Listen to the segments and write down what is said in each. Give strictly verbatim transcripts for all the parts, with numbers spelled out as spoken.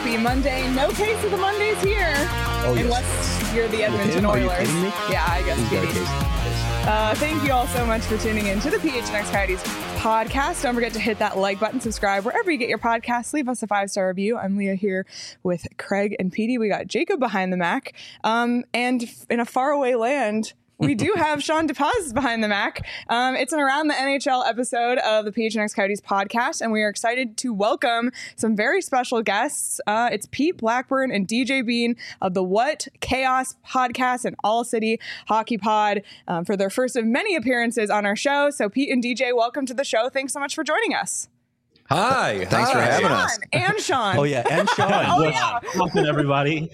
Happy Monday. No case of the Mondays here. Oh, unless yes. you're the Edmonton Are you Oilers. kidding me? Yeah, I guess. Katie. Uh, thank you all so much for tuning in to the P H N X Coyotes podcast. Don't forget to hit that like button, subscribe wherever you get your podcasts. Leave us a five-star review. I'm Leah here with Craig and Petey. We got Jacob behind the Mac. Um, and in a faraway land, we do have Sean DePaz behind the Mac. Um, it's an Around the N H L episode of the P H N X Coyotes podcast, and we are excited to welcome some very special guests. Uh, it's Pete Blackburn and D J Bean of the What Chaos podcast and All City Hockey Pod um, for their first of many appearances on our show. So Pete and D J, welcome to the show. Thanks so much for joining us. Hi. Thanks hi. for having Sean us. And Sean. Oh, yeah. And Sean. Oh, What's yeah. Welcome, everybody.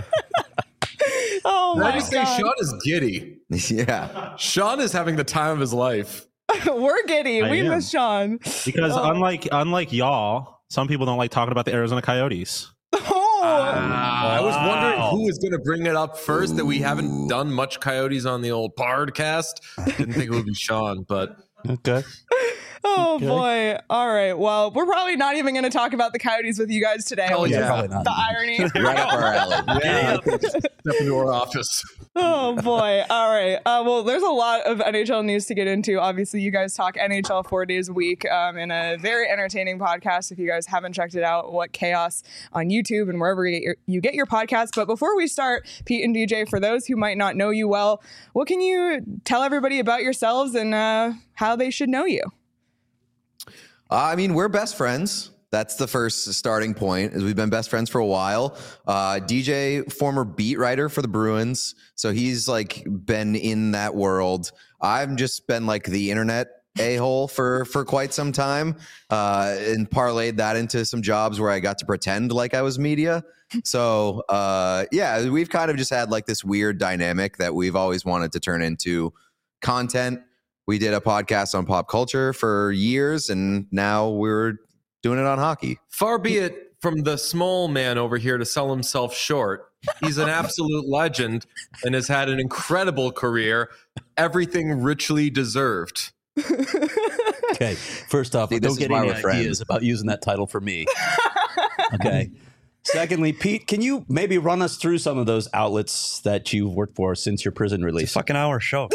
Oh, Can I my just say, God. Sean is giddy. Yeah. Sean is having the time of his life. We're giddy. I We am. miss Sean. Because Oh. unlike unlike y'all, some people don't like talking about the Arizona Coyotes. Oh. I was wondering Wow. who was going to bring it up first, that we haven't done much Coyotes on the old podcast. Didn't think it would be Sean, but Okay. Oh Okay. boy. All right. Well, we're probably not even going to talk about the Coyotes with you guys today. Hell which is yeah. Probably not. The irony. Right up our alley. yeah, step into our office. Oh boy. All right. Uh, well, there's a lot of N H L news to get into. Obviously, you guys talk N H L four days a week um, in a very entertaining podcast. If you guys haven't checked it out, What Chaos on YouTube and wherever you get your, you get your podcasts. But before we start, Pete and D J, for those who might not know you well, what can you tell everybody about yourselves and uh, how they should know you? Uh, I mean, we're best friends. That's the first starting point, is we've been best friends for a while. Uh, D J, former beat writer for the Bruins. So he's like been in that world. I've just been like the internet a-hole for, for quite some time uh, and parlayed that into some jobs where I got to pretend like I was media. So uh, yeah, we've kind of just had like this weird dynamic that we've always wanted to turn into content. We did a podcast on pop culture for years, and now we're doing it on hockey. Far be it from the small man over here to sell himself short. He's an absolute legend and has had an incredible career. Everything richly deserved. Okay, first off, See, this don't is get why any we're friends. ideas about using that title for me. Okay. Secondly, Pete, can you maybe run us through some of those outlets that you've worked for since your prison release? Fucking hour show.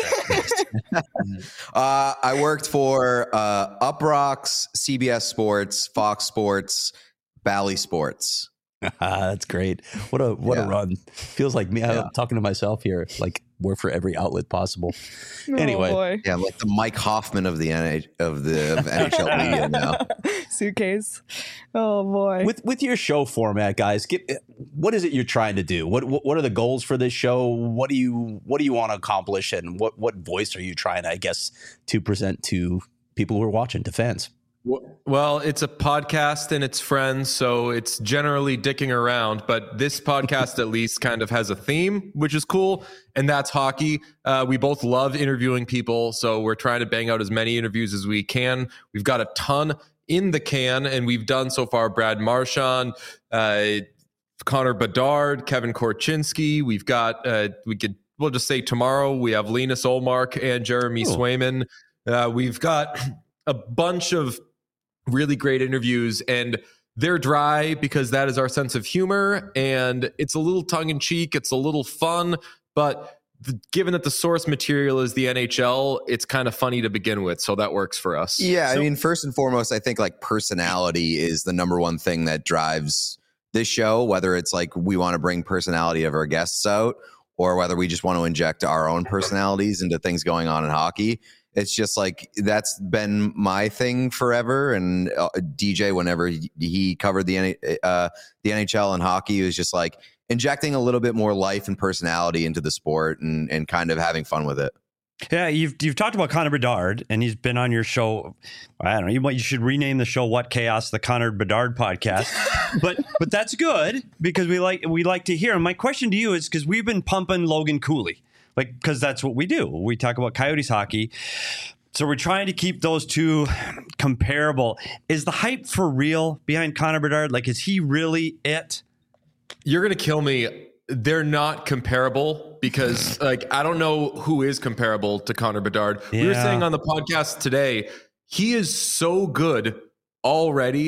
Uh, I worked for uh, Up Rocks, C B S Sports, Fox Sports, Bally Sports. That's great. What a what Yeah. a run. Feels like me Yeah. I'm talking to myself here, like work for every outlet possible. Oh, Anyway. boy. Yeah, I'm like the Mike Hoffman of the N H of the of N H L media now. Suitcase. Oh boy. With with your show format, guys, get, what is it you're trying to do? What, what what are the goals for this show? What do you what do you want to accomplish, and what what voice are you trying, I guess, to present to people who are watching, to fans? Well, it's a podcast and it's friends, so it's generally dicking around. But this podcast, at least, kind of has a theme, which is cool, and that's hockey. Uh, we both love interviewing people, so we're trying to bang out as many interviews as we can. We've got a ton in the can, and we've done so far Brad Marchand, uh, Connor Bedard, Kevin Korchinski. We've got, uh, we could, we'll just say tomorrow, we have Linus Olmark and Jeremy Oh. Swayman. Uh, we've got a bunch of really great interviews, and they're dry because that is our sense of humor, and it's a little tongue-in-cheek, it's a little fun, but the, given that the source material is the N H L, it's kind of funny to begin with, so that works for us. Yeah, I So- mean, first and foremost, I think like personality is the number one thing that drives this show, whether it's like we want to bring personality of our guests out or whether we just want to inject our own personalities into things going on in hockey. It's just like that's been my thing forever. And uh, D J, whenever he, he covered the N- uh, the N H L and hockey, he was just like injecting a little bit more life and personality into the sport and, and kind of having fun with it. Yeah, you've you've talked about Connor Bedard, and he's been on your show. I don't know. You might you should rename the show "What Chaos," the Connor Bedard podcast. but but that's good because we like we like to hear him. My question to you is because we've been pumping Logan Cooley, like because that's what we do. We talk about Coyotes hockey. So we're trying to keep those two comparable. Is the hype for real behind Connor Bedard? Like, is he really it? You're going to kill me. They're not comparable because, like, I don't know who is comparable to Connor Bedard. We were Yeah. saying on the podcast today, he is so good already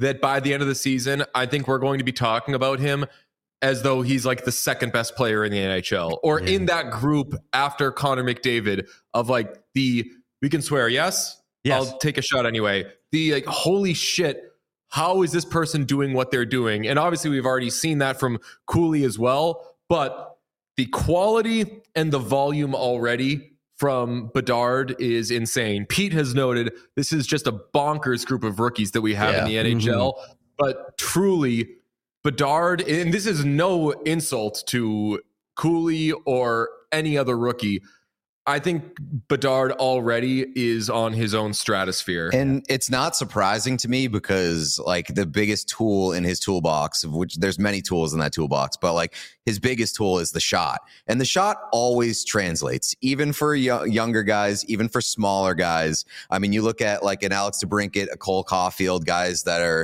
that by the end of the season, I think we're going to be talking about him as though he's like the second best player in the N H L, or yeah. in that group after Connor McDavid of like the, we can swear, yes? Yes. I'll take a shot anyway. The like, holy shit, how is this person doing what they're doing? And obviously we've already seen that from Cooley as well, but the quality and the volume already from Bedard is insane. Pete has noted this is just a bonkers group of rookies that we have yeah. in the N H L, mm-hmm. but truly Bedard, and this is no insult to Cooley or any other rookie, I think Bedard already is on his own stratosphere. And it's not surprising to me because like the biggest tool in his toolbox, of which there's many tools in that toolbox, but like his biggest tool is the shot. And the shot always translates, even for y- younger guys, even for smaller guys. I mean, you look at like an Alex DeBrincat, a Cole Caulfield, guys that are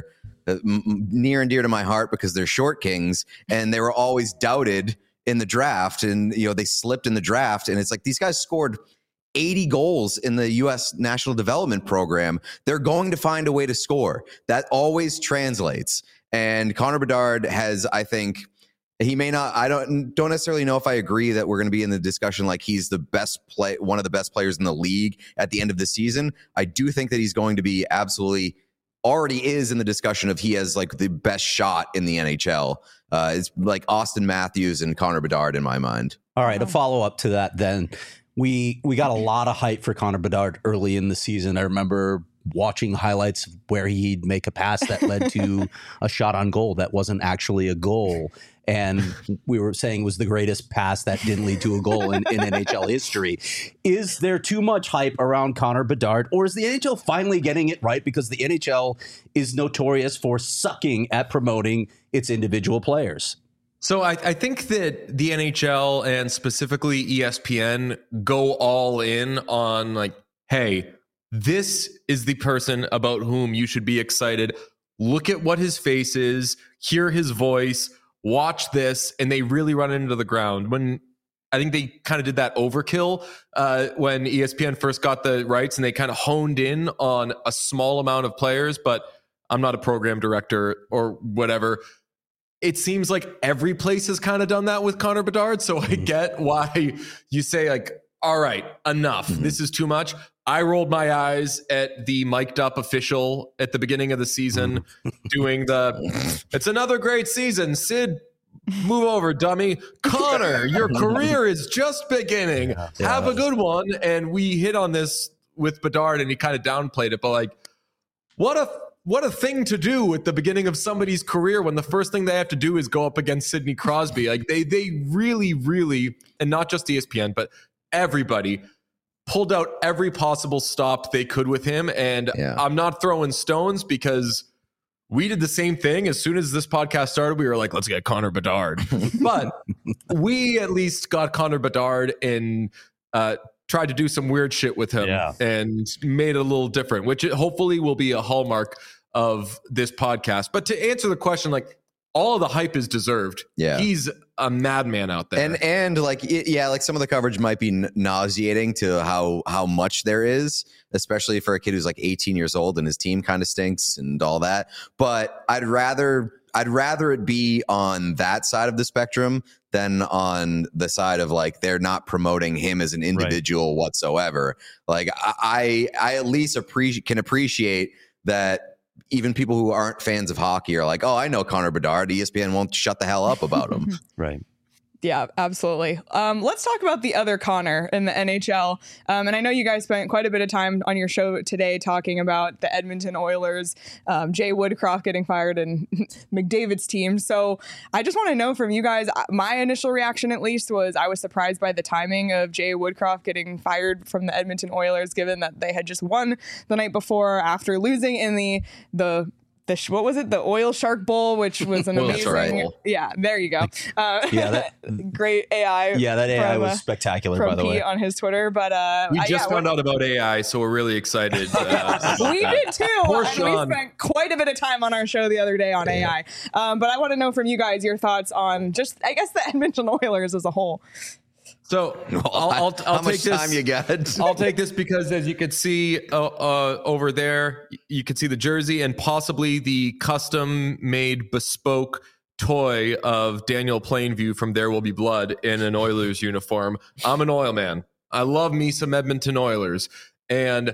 near and dear to my heart because they're short kings, and they were always doubted in the draft, and you know they slipped in the draft, and it's like these guys scored eighty goals in the U S National Development Program. They're going to find a way to score. That always translates. And Connor Bedard has, I think, he may not, I don't don't necessarily know if I agree that we're going to be in the discussion like he's the best play, one of the best players in the league at the end of the season. I do think that he's going to be absolutely already is in the discussion of he has like the best shot in the N H L. Uh, it's like Austin Matthews and Connor Bedard in my mind. All right, a follow up to that then. We we got a lot of hype for Connor Bedard early in the season. I remember watching highlights where he'd make a pass that led to a shot on goal that wasn't actually a goal. And we were saying was the greatest pass that didn't lead to a goal in, in N H L history. Is there too much hype around Connor Bedard, or is the N H L finally getting it right? Because the N H L is notorious for sucking at promoting its individual players. So I, I think that the N H L and specifically E S P N go all in on like, hey, this is the person about whom you should be excited. Look at what his face is, hear his voice, watch this, and they really run into the ground. When I think they kind of did that overkill uh, when E S P N first got the rights, and they kind of honed in on a small amount of players, but I'm not a program director or whatever. It seems like every place has kind of done that with Connor Bedard. So I get why you say like, all right, enough. Mm-hmm. This is too much. I rolled my eyes at the mic'd up official at the beginning of the season doing the, it's another great season. Sid, move over, dummy. Connor, your career is just beginning. Yeah, yeah, Have a good one. And we hit on this with Bedard and he kind of downplayed it. But like, what a, what a thing to do at the beginning of somebody's career when the first thing they have to do is go up against Sidney Crosby. Like they, they really, really, and not just E S P N, but everybody pulled out every possible stop they could with him. And yeah. I'm not throwing stones because we did the same thing. As soon as this podcast started, we were like, let's get Connor Bedard. But we at least got Connor Bedard and uh, tried to do some weird shit with him yeah. and made it a little different, which hopefully will be a hallmark of this podcast. But to answer the question, like, all of the hype is deserved. Yeah. He's a madman out there. And, and like, it, yeah, like some of the coverage might be nauseating to how, how much there is, especially for a kid who's like eighteen years old and his team kind of stinks and all that. But I'd rather, I'd rather it be on that side of the spectrum than on the side of like, they're not promoting him as an individual right. whatsoever. Like I, I at least appreciate, can appreciate that. Even people who aren't fans of hockey are like, oh, I know Connor Bedard. E S P N won't shut the hell up about him. Right. Yeah, absolutely. Um, let's talk about the other Connor in the N H L. Um, and I know you guys spent quite a bit of time on your show today talking about the Edmonton Oilers, um, Jay Woodcroft getting fired and McDavid's team. So I just want to know from you guys, my initial reaction at least was I was surprised by the timing of Jay Woodcroft getting fired from the Edmonton Oilers, given that they had just won the night before after losing in the the The, what was it? The Oil Shark Bowl, which was an amazing. Right. Yeah, there you go. Uh, yeah, that, great A I. Yeah, that A I from, was spectacular, from by the Pete way. on his Twitter. But uh, we just yeah, found out about A I, so we're really excited. Uh, we did too. Poor and Sean. We spent quite a bit of time on our show the other day on yeah. A I. Um, but I want to know from you guys your thoughts on just, I guess, the Edmonton Oilers as a whole. So Well, I'll, I'll, I'll how take much this. time you got? I'll take this because, as you can see uh, uh, over there, you can see the jersey and possibly the custom-made bespoke toy of Daniel Plainview from There Will Be Blood in an Oilers uniform. I'm an Oil man. I love me some Edmonton Oilers, and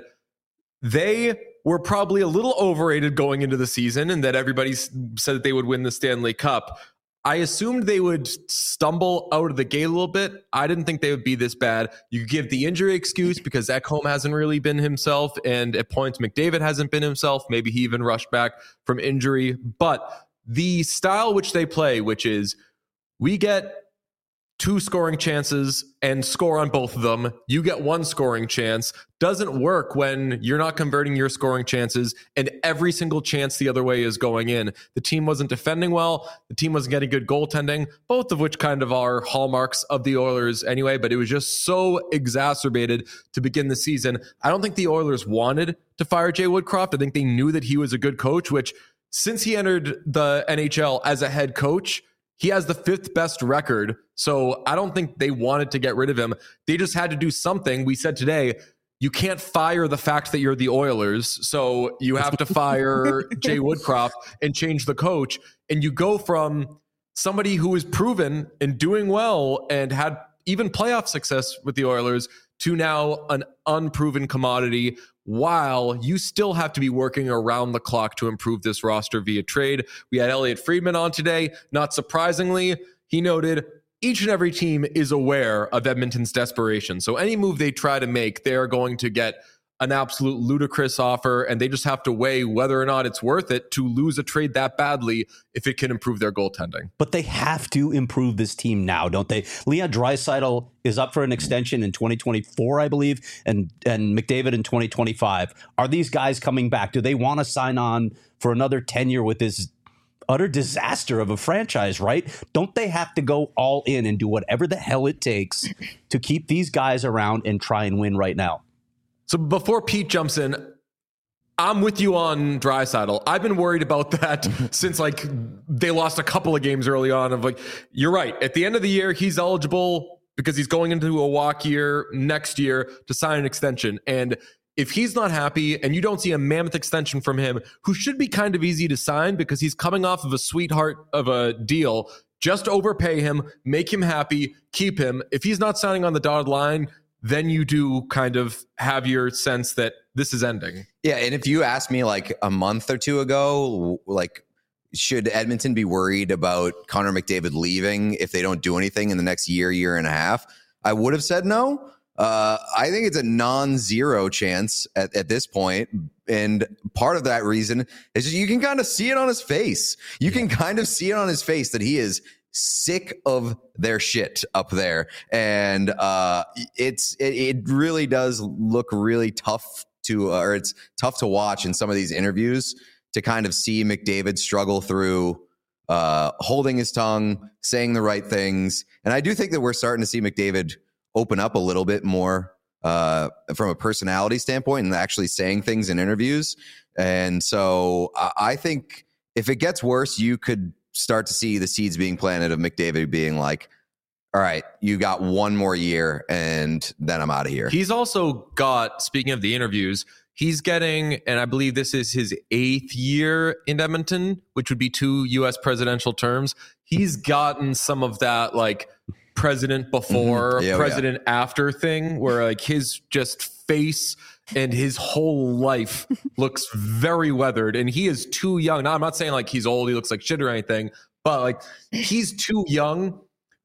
they were probably a little overrated going into the season, and that everybody said that they would win the Stanley Cup. I assumed they would stumble out of the gate a little bit. I didn't think they would be this bad. You could give the injury excuse because Ekholm hasn't really been himself, and at points McDavid hasn't been himself. Maybe he even rushed back from injury. But the style which they play, which is we get two scoring chances and score on both of them, you get one scoring chance, doesn't work when you're not converting your scoring chances and every single chance the other way is going in. The team wasn't defending well. The team wasn't getting good goaltending, both of which kind of are hallmarks of the Oilers anyway, but it was just so exacerbated to begin the season. I don't think the Oilers wanted to fire Jay Woodcroft. I think they knew that he was a good coach, which since he entered the N H L as a head coach, he has the fifth best record. So I don't think they wanted to get rid of him. They just had to do something. We said today, you can't fire the fact that you're the Oilers. So you have to fire Jay Woodcroft and change the coach. And you go from somebody who is proven and doing well and had even playoff success with the Oilers to now an unproven commodity, while you still have to be working around the clock to improve this roster via trade. We had Elliot Friedman on today. Not surprisingly, he noted each and every team is aware of Edmonton's desperation. So any move they try to make, they're going to get an absolute ludicrous offer, and they just have to weigh whether or not it's worth it to lose a trade that badly if it can improve their goaltending. But they have to improve this team now, don't they? Leon Draisaitl is up for an extension in twenty twenty-four, I believe, and, and McDavid in twenty twenty-five. Are these guys coming back? Do they want to sign on for another tenure with this utter disaster of a franchise, right? Don't they have to go all in and do whatever the hell it takes to keep these guys around and try and win right now? So before Pete jumps in, I'm with you on Draisaitl. I've been worried about that since like they lost a couple of games early on. Of like, you're right. At the end of the year, he's eligible because he's going into a walk year next year to sign an extension. And if he's not happy and you don't see a mammoth extension from him, who should be kind of easy to sign because he's coming off of a sweetheart of a deal, just overpay him, make him happy, keep him. If he's not signing on the dotted line, then you do kind of have your sense that this is ending. Yeah, and if you asked me like a month or two ago, like, should Edmonton be worried about Connor McDavid leaving if they don't do anything in the next year, year and a half? I would have said no. Uh, I think it's a non-zero chance at, at this point. And part of that reason is just you can kind of see it on his face. You yeah. can kind of see it on his face that he is sick of their shit up there. And uh, it's it, it really does look really tough to, uh, or it's tough to watch in some of these interviews to kind of see McDavid struggle through uh, holding his tongue, saying the right things. And I do think that we're starting to see McDavid open up a little bit more uh, from a personality standpoint and actually saying things in interviews. And so I, I think if it gets worse, you could start to see the seeds being planted of McDavid being like, all right, you got one more year and then I'm out of here. He's also got, speaking of the interviews, he's getting, and I believe this is his eighth year in Edmonton, which would be two U S presidential terms. He's gotten some of that like president before, mm-hmm. yeah, president yeah. after thing where like his just face and his whole life looks very weathered, and he is too young. Now, I'm not saying like he's old, he looks like shit or anything, but like he's too young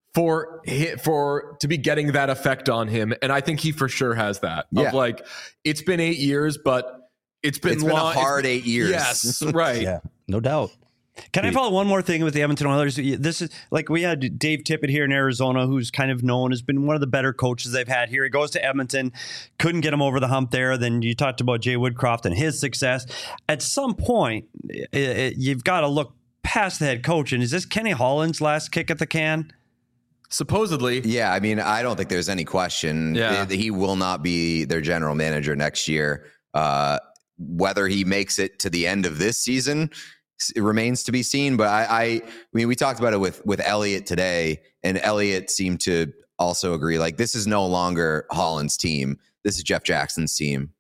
for for to be getting that effect on him, and I think he for sure has that. Yeah. Of like, it's been eight years, but it's been, it's been long, a hard eight years. Yes, right. Yeah, no doubt. Can I follow one more thing with the Edmonton Oilers? This is like we had Dave Tippett here in Arizona, who's kind of known, has been one of the better coaches they've had here. He goes to Edmonton, couldn't get him over the hump there. Then you talked about Jay Woodcroft and his success. At some point, it, it, you've got to look past the head coach. And is this Kenny Holland's last kick at the can? Supposedly. Yeah, I mean, I don't think there's any question. Yeah. He will not be their general manager next year. Uh, whether he makes it to the end of this season, it remains to be seen. But I, I, I mean, we talked about it with with Elliot today, and Elliot seemed to also agree. Like, this is no longer Holland's team. This is Jeff Jackson's team.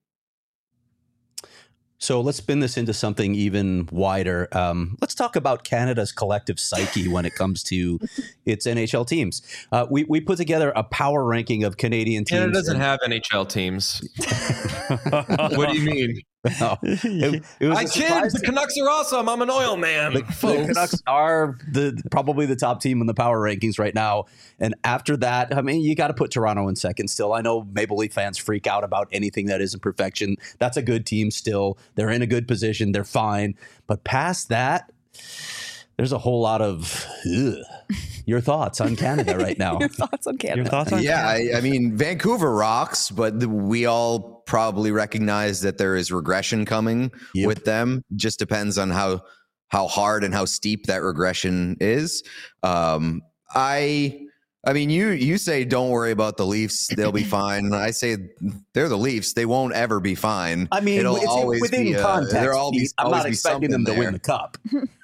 So let's spin this into something even wider. Um, let's talk about Canada's collective psyche when it comes to its N H L teams. Uh, we we put together a power ranking of Canadian teams. Canada doesn't have N H L teams. What do you mean? No. It, it was I kid. The Canucks are awesome. I'm an oil man. The, the Canucks are the probably the top team in the power rankings right now. And after that, I mean, you got to put Toronto in second still. I know Maple Leaf fans freak out about anything that isn't perfection. That's a good team still. They're in a good position. They're fine. But past that, there's a whole lot of ugh. Your thoughts on Canada right now. Your thoughts on Canada. Your thoughts on Yeah, Canada? I, I mean, Vancouver rocks, but the, we all probably recognize that there is regression coming Yep. with them. Just depends on how how hard and how steep that regression is. Um, I. I mean, you you say don't worry about the Leafs; they'll be fine. I say they're the Leafs; they won't ever be fine. I mean, It'll it's always within be, uh, context. there'll always, Pete. I'm always not be expecting them to something win the there. cup.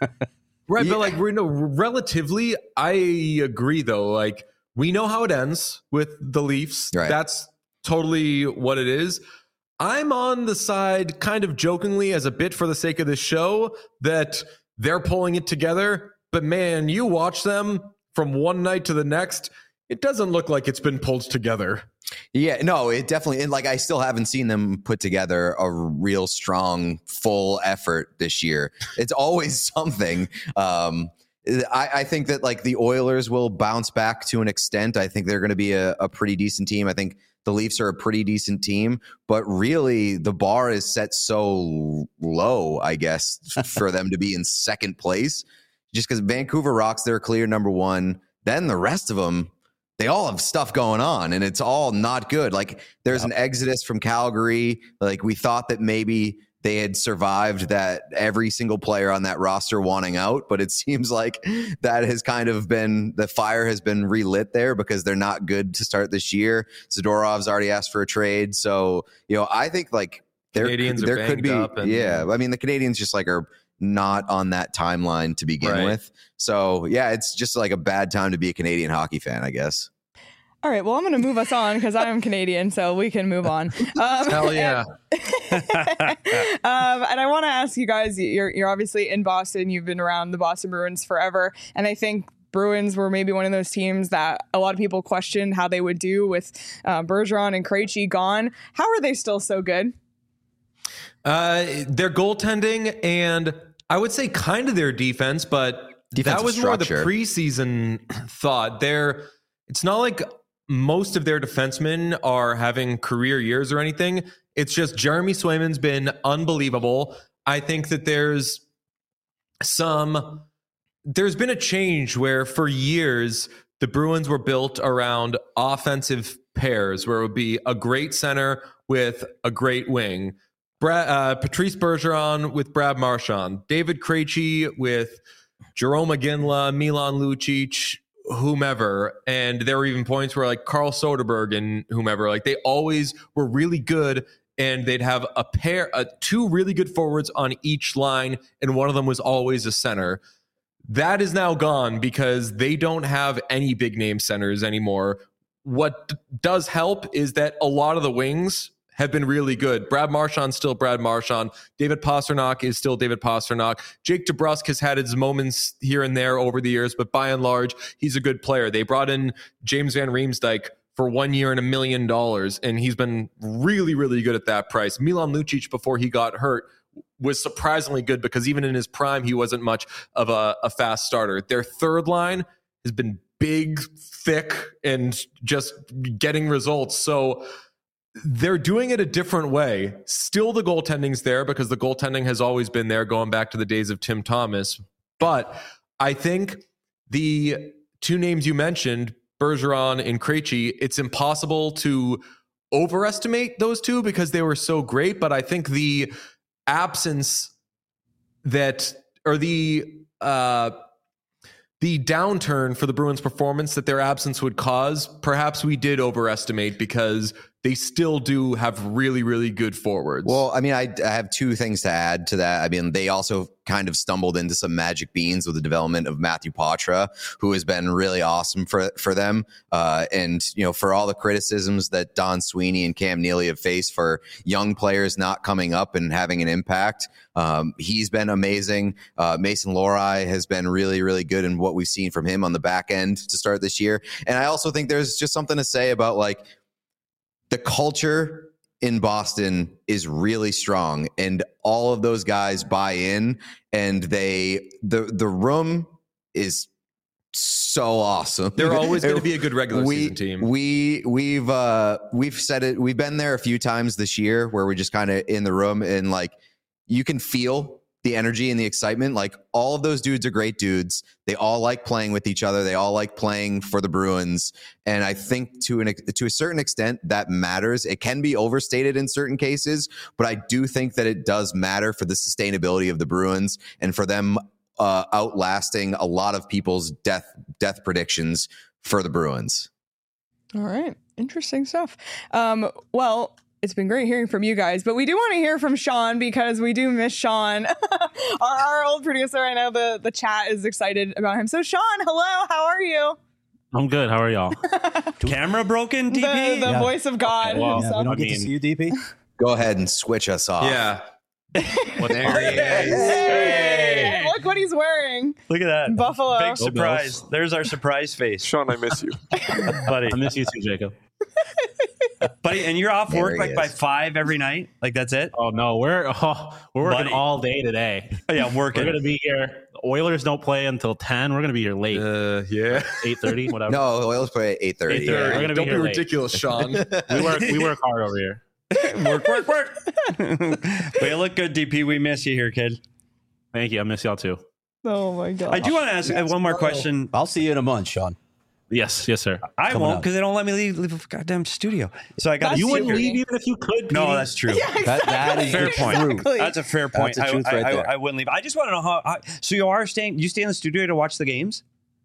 Right, Yeah. but like we're no relatively, I agree though. Like we know how it ends with the Leafs. Right. That's totally what it is. I'm on the side, kind of jokingly, as a bit for the sake of this show, that they're pulling it together. But man, you watch them from one night to the next, it doesn't look like it's been pulled together. Yeah, no, it definitely, and like I still haven't seen them put together a real strong, full effort this year. It's always something. Um, I, I think that like the Oilers will bounce back to an extent. I think they're going to be a, a pretty decent team. I think the Leafs are a pretty decent team, but really the bar is set so low, I guess, for them to be in second place, just because Vancouver rocks, they're clear number one. Then the rest of them, they all have stuff going on and it's all not good. Like there's yep. an exodus from Calgary. Like we thought that maybe they had survived that every single player on that roster wanting out, but it seems like that has kind of been, the fire has been relit there because they're not good to start this year. Zadorov's already asked for a trade. So, you know, I think like there, Canadians there are could be, up and, yeah. I mean, the Canadians just like are not on that timeline to begin right. with. So yeah, it's just like a bad time to be a Canadian hockey fan, I guess. All right, well, I'm going to move us on because I'm Canadian, so we can move on. Um, Hell yeah. And, um, and I want to ask you guys, you're, you're obviously in Boston. You've been around the Boston Bruins forever. And I think Bruins were maybe one of those teams that a lot of people questioned how they would do with uh, Bergeron and Krejci gone. How are they still so good? Uh, their goaltending and I would say kind of their defense, but Defensive that was structure. more the preseason thought. They're, it's not like most of their defensemen are having career years or anything. It's just Jeremy Swayman's been unbelievable. I think that there's some, there's been a change where for years the Bruins were built around offensive pairs where it would be a great center with a great wing. Brad, uh, Patrice Bergeron with Brad Marchand, David Krejci with Jerome McGinley, Milan Lucic, whomever. And there were even points where like Carl Soderberg and whomever, like they always were really good and they'd have a pair, uh, two really good forwards on each line. And one of them was always a center. That is now gone because they don't have any big name centers anymore. What d- does help is that a lot of the wings have been really good. Brad Marchand's still Brad Marchand. David Pastrnak is still David Pastrnak. Jake DeBrusk has had his moments here and there over the years, but by and large, he's a good player. They brought in James Van Riemsdyk for one year and a million dollars, and he's been really, really good at that price. Milan Lucic, before he got hurt, was surprisingly good because even in his prime, he wasn't much of a, a fast starter. Their third line has been big, thick, and just getting results. So they're doing it a different way. Still the goaltending's there because the goaltending has always been there going back to the days of Tim Thomas. But I think the two names you mentioned, Bergeron and Krejci, it's impossible to overestimate those two because they were so great. But I think the absence that, or the, uh, the downturn for the Bruins performance that their absence would cause, perhaps we did overestimate because they still do have really, really good forwards. Well, I mean, I, I have two things to add to that. I mean, they also kind of stumbled into some magic beans with the development of Matthew Poitras, who has been really awesome for for them. Uh, and, you know, for all the criticisms that Don Sweeney and Cam Neely have faced for young players not coming up and having an impact, um, he's been amazing. Uh, Mason Lohrei has been really, really good in what we've seen from him on the back end to start this year. And I also think there's just something to say about, like, the culture in Boston is really strong, and all of those guys buy in, and they the the room is so awesome. They're always going to be a good regular we, season team. We we've uh, we've said it. We've been there a few times this year where we're just kind of in the room, and like you can feel the energy and the excitement. Like, all of those dudes are great dudes. They all like playing with each other. They all like playing for the Bruins. And I think to an to a certain extent that matters. It can be overstated in certain cases, but I do think that it does matter for the sustainability of the Bruins and for them uh, outlasting a lot of people's death death predictions for the Bruins. All right. Interesting stuff. Um, well, it's been great hearing from you guys, but we do want to hear from Sean because we do miss Sean, our, our old producer. I know the, the chat is excited about him. So Sean, hello, how are you? I'm good. How are y'all? Camera broken, D P? The, the Yeah. voice of God. Okay, well, Yeah, we himself. don't I get mean- to see you, D P. Go ahead and switch us off. Yeah. What There he is. Hey, look what he's wearing. Look at that. Buffalo. Big surprise. There's our surprise face. Sean, I miss you. Buddy. I miss you too, Jacob. Buddy, and you're off There work he like by is. five every night? Like, that's it? Oh no, we're oh, we're working Buddy. all day today. Oh, yeah, I'm We're working. gonna be here. Oilers don't play until ten. We're gonna be here late, Uh, yeah. eight thirty, whatever. No, the Oilers play at eight thirty. eight thirty. We're gonna be Don't be here late. ridiculous, Sean. we work we work hard over here. work, work, work. But you look good, D P. We miss you here, kid. Thank you. I miss y'all too. Oh my God. I do want to ask uh, one more question. I'll see you in a month, Sean. Yes, yes, sir. I Coming won't up. because they don't let me leave, leave a goddamn studio. So I got That's You wouldn't secret. leave even if you could. No, Petey. that's true. That, that is Fair the point. truth. Exactly. That's a fair point. That's the truth I, right I, there. I, I wouldn't leave. I just want to know how. I, so you are staying? You stay in the studio to watch the games?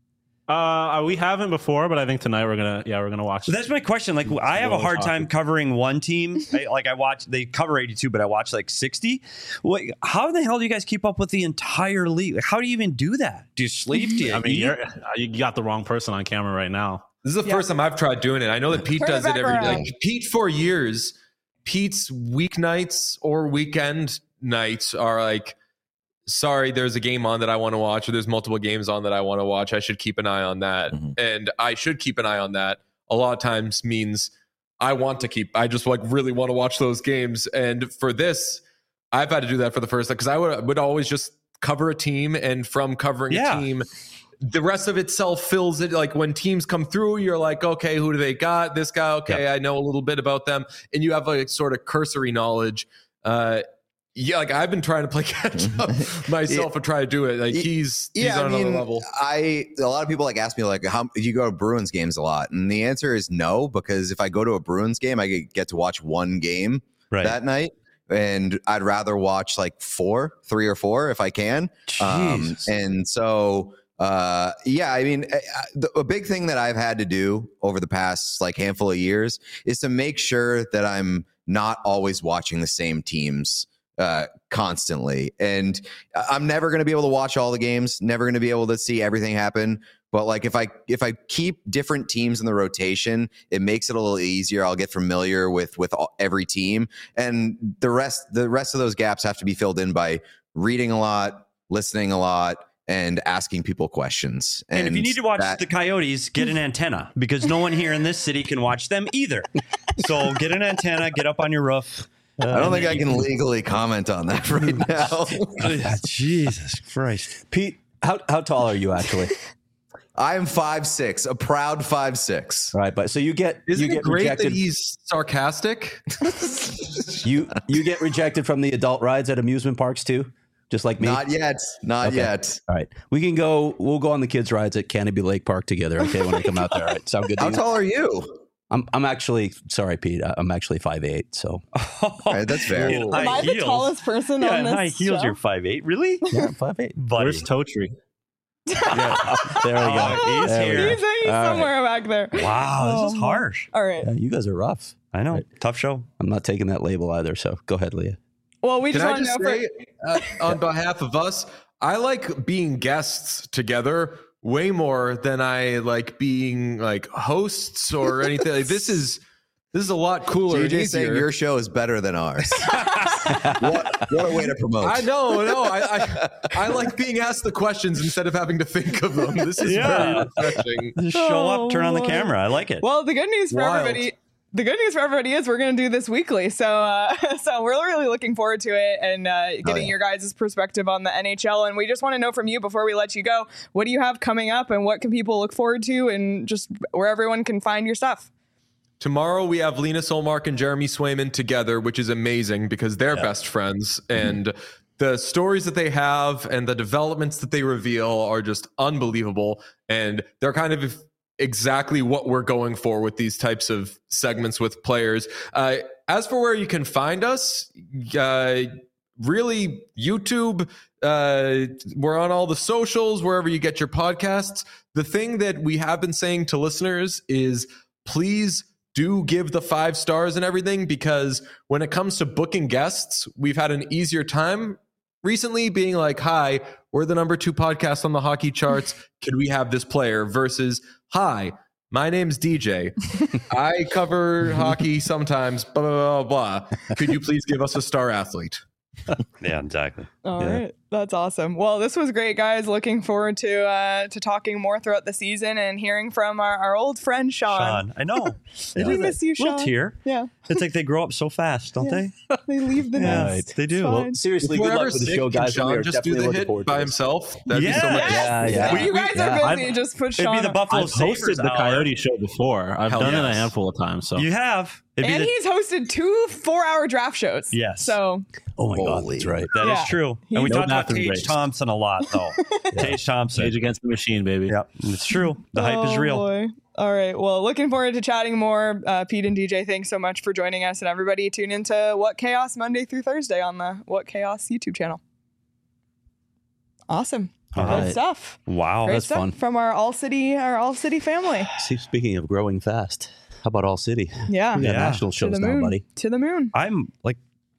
Uh, we haven't before, but I think tonight we're gonna. Yeah, we're gonna watch. So that's my question. Like, I have a Well, hard time hockey. covering one team. I, like, I watch, they cover eighty-two, but I watch like sixty. What? How the hell do you guys keep up with the entire league? Like, how do you even do that? Do you sleep? Do you I mean, eat? you're, you got the wrong person on camera right now. This is the Yeah. first time I've tried doing it. I know that Pete Turn it does it back every day. around. Like, Pete, for years, Pete's weeknights or weekend nights are like, sorry, there's a game on that I want to watch, or there's multiple games on that I want to watch. I should keep an eye on that. Mhm. And I should keep an eye on that. A lot of times means I want to keep, I just like really want to watch those games. And for this, I've had to do that for the first time because I would, would always just cover a team. And from covering Yeah. a team, the rest of itself fills it. Like when teams come through, you're like, okay, who do they got? This guy, okay, I know a little bit about them. And you have like sort of cursory knowledge. Uh, yeah, like I've been trying to play catch up myself and try to do it. Like he's he's Yeah, on I another mean, level. I a lot of people like ask me like, how do you go to Bruins games a lot? And the answer is no, because if I go to a Bruins game, I get- get to watch one game Right. that night, and I'd rather watch like four, three or four if I can. Um, Jesus. and so, uh, yeah, I mean, a, a big thing that I've had to do over the past like handful of years is to make sure that I'm not always watching the same teams uh, constantly. And I'm never going to be able to watch all the games, never going to be able to see everything happen. But like if I if I keep different teams in the rotation, it makes it a little easier. I'll get familiar with with all, every team, and the rest the rest of those gaps have to be filled in by reading a lot, listening a lot, and asking people questions. And, if you need to watch that- the Coyotes, get an antenna because no one here in this city can watch them either. So get an antenna, get up on your roof. I don't think I can legally comment on that right now. Jesus Christ. Pete, how how tall are you actually? I am five six, a proud five six. All right, but so you get Isn't you it get great rejected. that he's sarcastic? you you get rejected from the adult rides at amusement parks too, just like me. Not yet, not Okay. yet. All right, we can go. We'll go on the kids' rides at Canopy Lake Park together. Okay, when I come out there. All right, sound good to How you? tall are you? I'm I'm actually sorry, Pete. I- I'm actually five eight. So All right, that's fair. In high Am I the heels. tallest person Yeah, on in this high heels, show? you're five eight. Really? yeah, I'm five eight. Buddy. Where's Totri? Yeah, there we go. Oh, he's There we here. go. He's, he's All right. somewhere back there. Wow, this is Oh. harsh. All right. Yeah, you guys are rough. I know. Right. Tough show. I'm not taking that label either. So go ahead, Leah. Well, we Can just I want to just know say, for uh, on behalf of us, I like being guests together way more than I like being like hosts or anything. Like, this is this is a lot cooler. D J and saying easier. your show is better than ours. what, what a way to promote. I know, no, I, I I like being asked the questions instead of having to think of them. This is Yeah. very refreshing. Just show Oh, up, turn on the boy. camera. I like it. Well, the good news for Wild. everybody. The good news for everybody is we're going to do this weekly, so uh, so we're really looking forward to it and uh, getting yeah. your guys' perspective on the N H L. And we just want to know from you before we let you go, what do you have coming up, and what can people look forward to, and just where everyone can find your stuff. Tomorrow we have Lena Solmark and Jeremy Swayman together, which is amazing because they're best friends, and the stories that they have and the developments that they reveal are just unbelievable, and they're kind of exactly what we're going for with these types of segments with players. Uh, as for where you can find us, uh, really YouTube, uh, we're on all the socials, wherever you get your podcasts. The thing that we have been saying to listeners is please do give the five stars and everything, because when it comes to booking guests, we've had an easier time recently being like, hi, we're the number two podcast on the hockey charts. Could we have this player? Versus, hi, my name's D J. I cover hockey sometimes, blah, blah, blah, blah. Could you please give us a star athlete? Yeah, exactly. All Yeah. right, that's awesome. Well, this was great, guys. Looking forward to uh, to talking more throughout the season and hearing from our, our old friend Sean. Sean, I know. They We do miss that. you, Little Sean. tear. Yeah, It's like they grow up so fast, don't Yeah. they? they leave the Yeah, nest. they do. It's Well, fine. Seriously, If good we're luck ever with the sick, show, can guys. and we Sean are just do definitely the looking hit forward to by this. himself? That'd be so Yeah. much. Yeah, yeah. When you guys yeah. are I'd- busy, just put It'd Sean be the on. Buffalo I've hosted Sabres the hour. Coyote Show before. I've Hell done it a yes. handful of times. So You have. It'd be And the- he's hosted two four-hour draft shows. Yes. So Oh my God, Holy. that's right. That is Yeah. true. And we No talked about bathroom Tage breaks. Thompson a lot, though. Tage Thompson. Age Against the Machine, baby. Yep, it's true. The hype is Oh, real. boy. All right. Well, looking forward to chatting more. Uh, Pete and D J, thanks so much for joining us. And everybody tune into What Chaos Monday through Thursday on the What Chaos YouTube channel. Awesome. All Good right. stuff. Wow. Great that's stuff fun. from our All City, our All City family. See, speaking of growing fast, how about All City? Yeah. We got Yeah. national To shows the now, moon. buddy. To the moon. I'm like,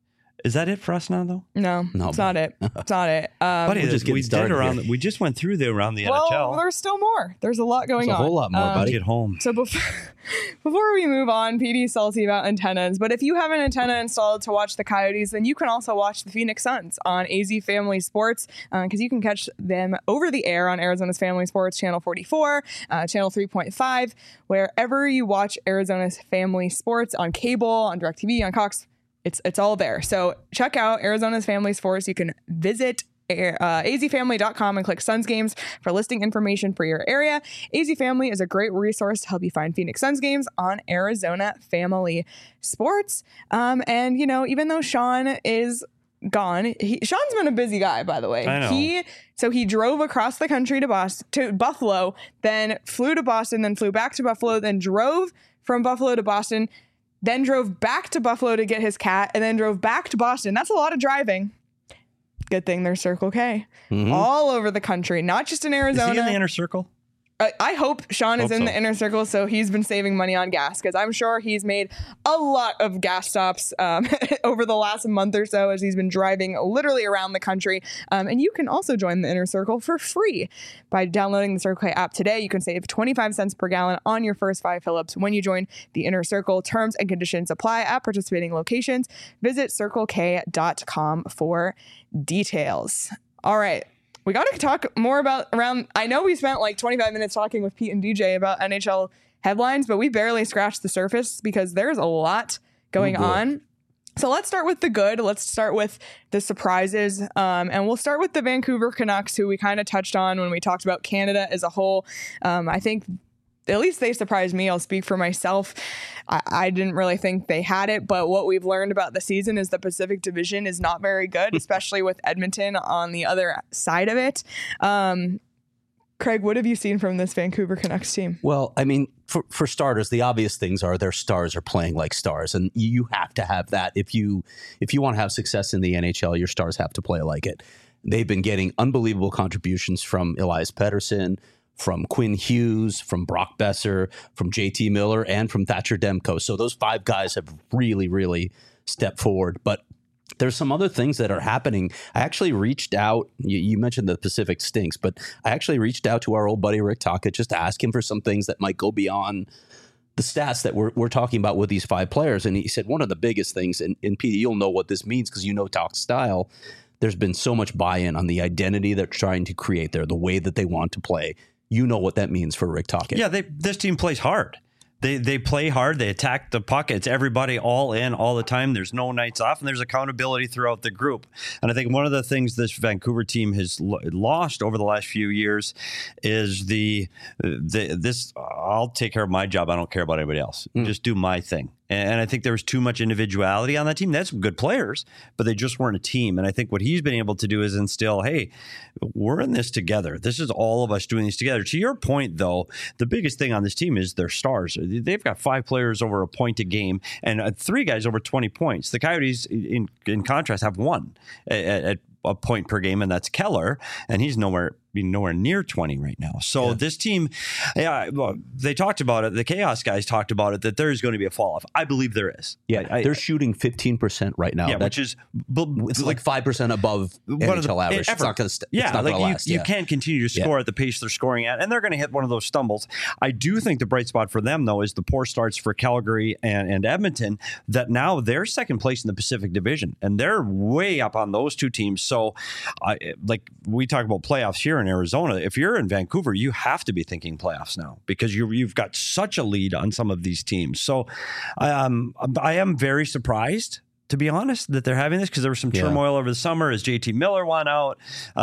is that it for us now, though? No, No, it's not it. It's not it. Um, Buddy, we're just we getting did started around. here. The, we just went through the around the well, N H L. there's still more. There's a lot going There's a on. whole lot more, Um, buddy. Get home. So before before we move on, P D's salty about antennas, but if you have an antenna installed to watch the Coyotes, then you can also watch the Phoenix Suns on A Z Family Sports, because you can catch them over the air on Arizona's Family Sports Channel forty-four, uh, Channel three point five, wherever you watch Arizona's Family Sports on cable, on DirecTV, on Cox. It's it's all there. So check out Arizona's Family Sports. You can visit Uh, A Z family dot com and click Suns games for listing information for your area. A Z Family is a great resource to help you find Phoenix Suns games on Arizona Family Sports. Um, and, you know, even though Sean is gone, he, Sean's been a busy guy, by the way. I know. He So he drove across the country to Boston, to Buffalo, then flew to Boston, then flew back to Buffalo, then drove from Buffalo to Boston, then drove back to Buffalo to get his cat, and then drove back to Boston. That's a lot of driving. Good thing there's Circle K Mhm. all over the country, not just in Is Arizona. he in the inner circle? I, I hope Sean is Hope in so. the inner circle, so he's been saving money on gas, because I'm sure he's made a lot of gas stops um, over the last month or so as he's been driving literally around the country. Um, and you can also join the inner circle for free by downloading the Circle K app today. You can save twenty-five cents per gallon on your first five fill-ups when you join the inner circle. Terms and conditions apply at participating locations. Visit circle k dot com for details. All right. We got to talk more about around. I know we spent like twenty-five minutes talking with Pete and D J about N H L headlines, but we barely scratched the surface because there's a lot going Oh, boy. on. So let's start with the good. Let's start with the surprises. Um, and we'll start with the Vancouver Canucks, who we kind of touched on when we talked about Canada as a whole. Um, I think at least they surprised me. I'll speak for myself. I, I didn't really think they had it, but what we've learned about the season is the Pacific Division is not very good, especially with Edmonton on the other side of it. Um, Craig, what have you seen from this Vancouver Canucks team? Well, I mean, for, for starters, the obvious things are their stars are playing like stars, and you have to have that if you if you want to have success in the N H L. Your stars have to play like it. They've been getting unbelievable contributions from Elias Pettersson, from Quinn Hughes, from Brock Besser, from J T Miller, and from Thatcher Demko. So those five guys have really, really stepped forward. But there's some other things that are happening. I actually reached out. You, you mentioned the Pacific stinks, but I actually reached out to our old buddy Rick Tocchet just to ask him for some things that might go beyond the stats that we're, we're talking about with these five players. And he said one of the biggest things, and, and Pete, you'll know what this means because you know Talk's style. There's been so much buy-in on the identity they're trying to create there, the way that they want to play. You know what that means for Rick Tocchet. Yeah, they, this team plays hard. They they play hard. They attack the puck. It's everybody all in all the time. There's no nights off, and there's accountability throughout the group. And I think one of the things this Vancouver team has lo- lost over the last few years is the, the this. I'll take care of my job. I don't care about anybody else. Mm. Just do my thing. And I think there was too much individuality on that team. That's good players, but they just weren't a team. And I think what he's been able to do is instill, hey, we're in this together. This is all of us doing this together. To your point, though, the biggest thing on this team is their stars. They've got five players over a point a game and three guys over twenty points. The Coyotes, in, in contrast, have one at, at a point per game, and that's Keller, and he's nowhere nowhere near twenty right now. So yeah. This team, yeah, well, they talked about it. The Chaos guys talked about it, that there is going to be a fall off. I believe there is. Yeah, I, they're I, shooting fifteen percent right now. Yeah, that, which is it's like five percent above N H L average. Ever. It's not going to. Yeah, not like gonna you, last. you yeah. can't continue to score yeah. at the pace they're scoring at, and they're going to hit one of those stumbles. I do think the bright spot for them, though, is the poor starts for Calgary and, and Edmonton. That now they're second place in the Pacific Division, and they're way up on those two teams. So, I, like we talk about playoffs here in Arizona, if you're in Vancouver, you have to be thinking playoffs now because you, you've got such a lead on some of these teams. So um, I am very surprised, to be honest, that they're having this because there was some yeah. turmoil over the summer as J T Miller went out,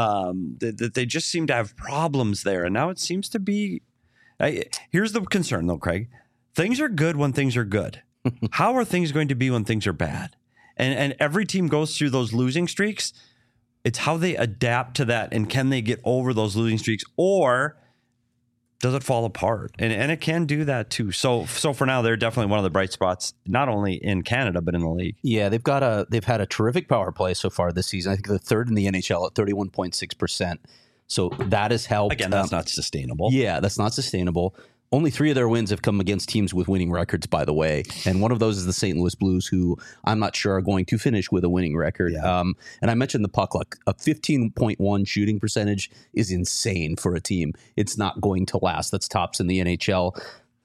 um, that, that they just seem to have problems there. And now it seems to be, I, here's the concern though, Craig. Things are good when things are good. How are things going to be when things are bad? And, and every team goes through those losing streaks. It's how they adapt to that, and can they get over those losing streaks, or does it fall apart? And and it can do that too. So so for now, they're definitely one of the bright spots, not only in Canada but in the league. Yeah, they've got a they've had a terrific power play so far this season. I think they're third in the N H L at thirty-one point six percent. So that has helped. Again, that's um, not sustainable. Yeah, that's not sustainable. Only three of their wins have come against teams with winning records, by the way. And one of those is the Saint Louis Blues, who I'm not sure are going to finish with a winning record. Yeah. Um, and I mentioned the puck luck. A fifteen point one shooting percentage is insane for a team. It's not going to last. That's tops in the N H L.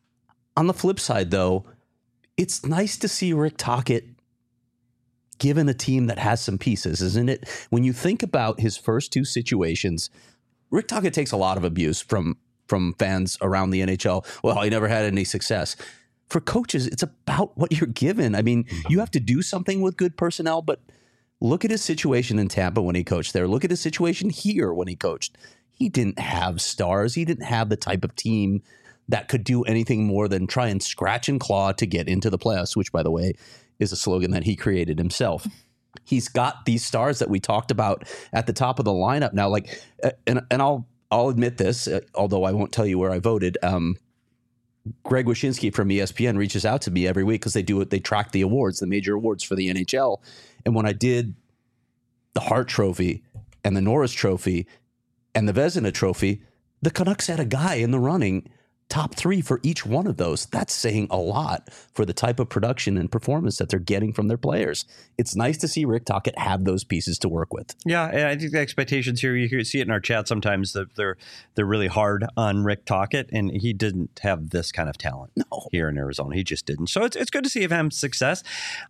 On the flip side, though, it's nice to see Rick Tocchet given a team that has some pieces, isn't it? When you think about his first two situations, Rick Tocchet takes a lot of abuse from from fans around the N H L. Well, he never had any success. For coaches, it's about what you're given. I mean, you have to do something with good personnel, but look at his situation in Tampa when he coached there. Look at his situation here when he coached. He didn't have stars. He didn't have the type of team that could do anything more than try and scratch and claw to get into the playoffs, which, by the way, is a slogan that he created himself. He's got these stars that we talked about at the top of the lineup now. Like, and and I'll I'll admit this, uh, although I won't tell you where I voted. Um, Greg Wyshynski from E S P N reaches out to me every week because they do it. They track the awards, the major awards for the N H L. And when I did the Hart Trophy and the Norris Trophy and the Vezina Trophy, the Canucks had a guy in the running top three for each one of those. That's saying a lot for the type of production and performance that they're getting from their players. It's nice to see Rick Tocchet have those pieces to work with. Yeah, and I think the expectations here, you hear, see it in our chat sometimes, that they're they're really hard on Rick Tocchet, and he didn't have this kind of talent no. here in Arizona. He just didn't. So it's it's good to see him have success.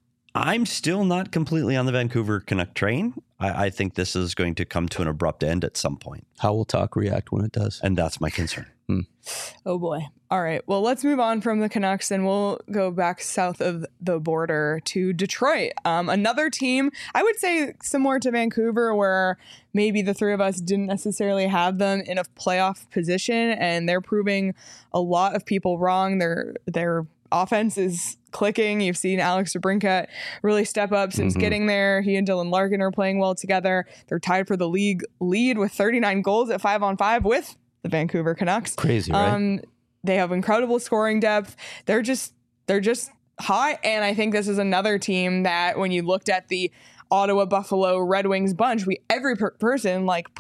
I'm still not completely on the Vancouver Canuck train. I, I think this is going to come to an abrupt end at some point. How will Talk react when it does? And that's my concern. Hmm. Oh boy. All right. Well, let's move on from the Canucks and we'll go back south of the border to Detroit. Um, another team, I would say similar to Vancouver, where maybe the three of us didn't necessarily have them in a playoff position, and they're proving a lot of people wrong. Their their offense is clicking. You've seen Alex DeBrincat really step up since mm-hmm. getting there. He and Dylan Larkin are playing well together. They're tied for the league lead with thirty-nine goals at five on five with the Vancouver Canucks. Crazy, right? Um, they have incredible scoring depth. They're just they're just hot, and I think this is another team that when you looked at the Ottawa, Buffalo, Red Wings bunch, we every per- person like put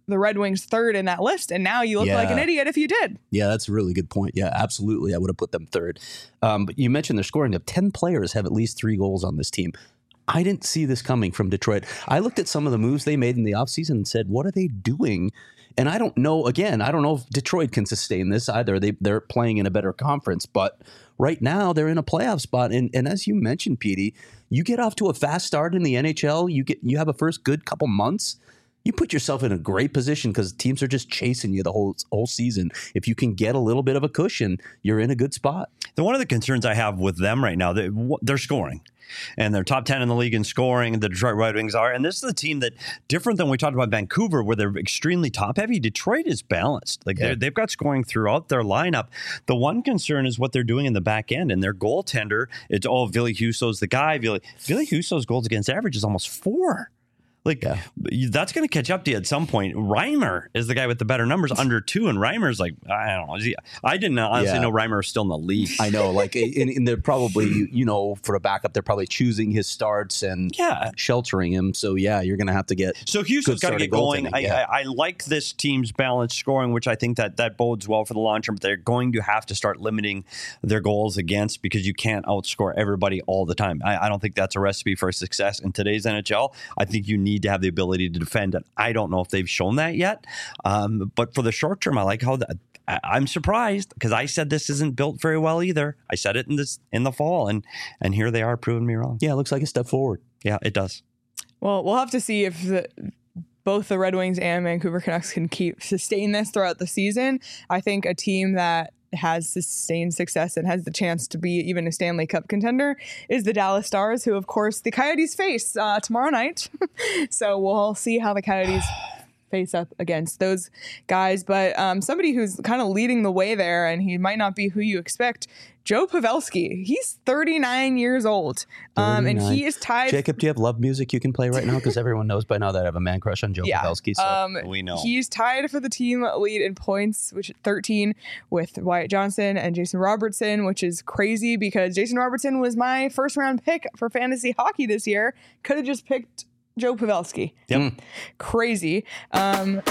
the Red Wings third in that list, and now you look Yeah. like an idiot if you did. Yeah, that's a really good point. Yeah, absolutely. I would have put them third. Um, but you mentioned their scoring. Of ten players have at least three goals on this team. I didn't see this coming from Detroit. I looked at some of the moves they made in the offseason and said, what are they doing? And I don't know, again, I don't know if Detroit can sustain this either. They, they're playing in a better conference, but right now they're in a playoff spot. And, and as you mentioned, Petey, you get off to a fast start in the N H L, you get you have a first good couple months, you put yourself in a great position because teams are just chasing you the whole whole season. If you can get a little bit of a cushion, you're in a good spot. The one of the concerns I have with them right now, they, they're scoring. And they're top ten in the league in scoring, the Detroit Red Wings are. And this is a team that, different than we talked about Vancouver, where they're extremely top-heavy, Detroit is balanced. Like Yeah. They've got scoring throughout their lineup. The one concern is what they're doing in the back end. And their goaltender, it's, oh, Ville Husso's the guy. Ville, Ville Husso's goals against average is almost four. Like, Yeah. that's going to catch up to you at some point. Reimer is the guy with the better numbers, under two, and Reimer's like, I don't know. Is he, I didn't honestly Yeah. know Reimer was still in the league. I know, like, and, and they're probably, you know, for a backup, they're probably choosing his starts and Yeah. sheltering him. So, yeah, you're going to have to get. So Houston's got to starting get going. goaltending, I, yeah. I, I like this team's balanced scoring, which I think that that bodes well for the long term. But they're going to have to start limiting their goals against, because you can't outscore everybody all the time. I, I don't think that's a recipe for success in today's N H L. I think you need to have the ability to defend, and I don't know if they've shown that yet. Um, but for the short term, I like how that. I- I'm surprised, because I said this isn't built very well either. I said it in this in the fall, and and here they are proving me wrong. Yeah, it looks like a step forward. Yeah, it does. Well, we'll have to see if the, both the Red Wings and Vancouver Canucks can keep sustain this throughout the season. I think a team that has sustained success and has the chance to be even a Stanley Cup contender is the Dallas Stars, who, of course, the Coyotes face uh, tomorrow night. So we'll see how the Coyotes face up against those guys. But um, somebody who's kind of leading the way there, and he might not be who you expect, Joe Pavelski. He's thirty-nine years old, um, and he is tied. Jacob, do you have love music you can play right now? Because everyone knows by now that I have a man crush on Joe Yeah. Pavelski. So. Um, We know. He's tied for the team lead in points, which is thirteen, with Wyatt Johnson and Jason Robertson, which is crazy because Jason Robertson was my first round pick for fantasy hockey this year. Could have just picked Joe Pavelski. Yep. Crazy. Um,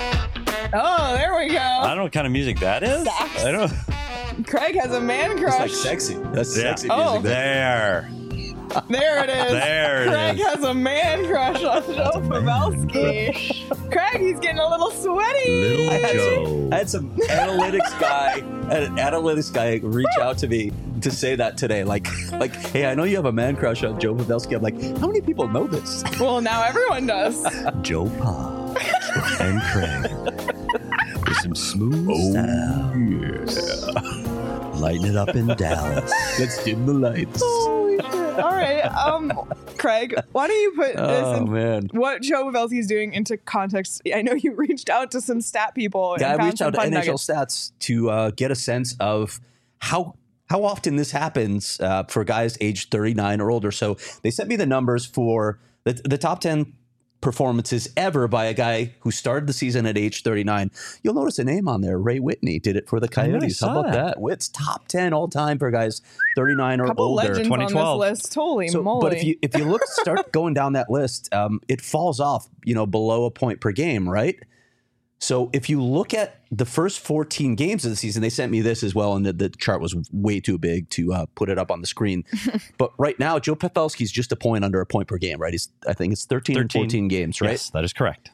oh, there we I go. don't know what kind of music that is. Sax. I don't. Craig has a man That's crush. like sexy. That's Yeah. sexy Oh. music. There. There it is. There it Craig is. has a man crush on Joe Pavelski. Craig, he's getting a little sweaty. I had, some, I had some analytics guy, an analytics guy reach out to me to say that today. Like, like, hey, I know you have a man crush on Joe Pavelski. I'm like, how many people know this? Well, now everyone does. Joe Pa and Craig with some smooth style. Lighting it up in Dallas. Let's dim the lights. Holy shit. All right. Um, Craig, why don't you put this Oh in man. what Joe Pavelski is doing into context? I know you reached out to some stat people. Yeah, and I found reached some out to fun N H L nuggets. Stats to uh, get a sense of how how often this happens uh, for guys aged thirty-nine or older. So they sent me the numbers for the, the top ten performances ever by a guy who started the season at age thirty-nine. You'll notice a name on there. Ray Whitney did it for the I know, I Coyotes. How saw about that. that? Witt's top ten all time for guys thirty-nine or Couple older. legends twenty on twelve. this list. Holy So, moly! but if you if you look start going down that list, um, it falls off, you know, below a point per game, right? So if you look at the first fourteen games of the season, they sent me this as well, and the, the chart was way too big to uh, put it up on the screen. But right now, Joe Pavelski's just a point under a point per game, right? He's I think it's thirteen, or fourteen games, right? Yes, that is correct.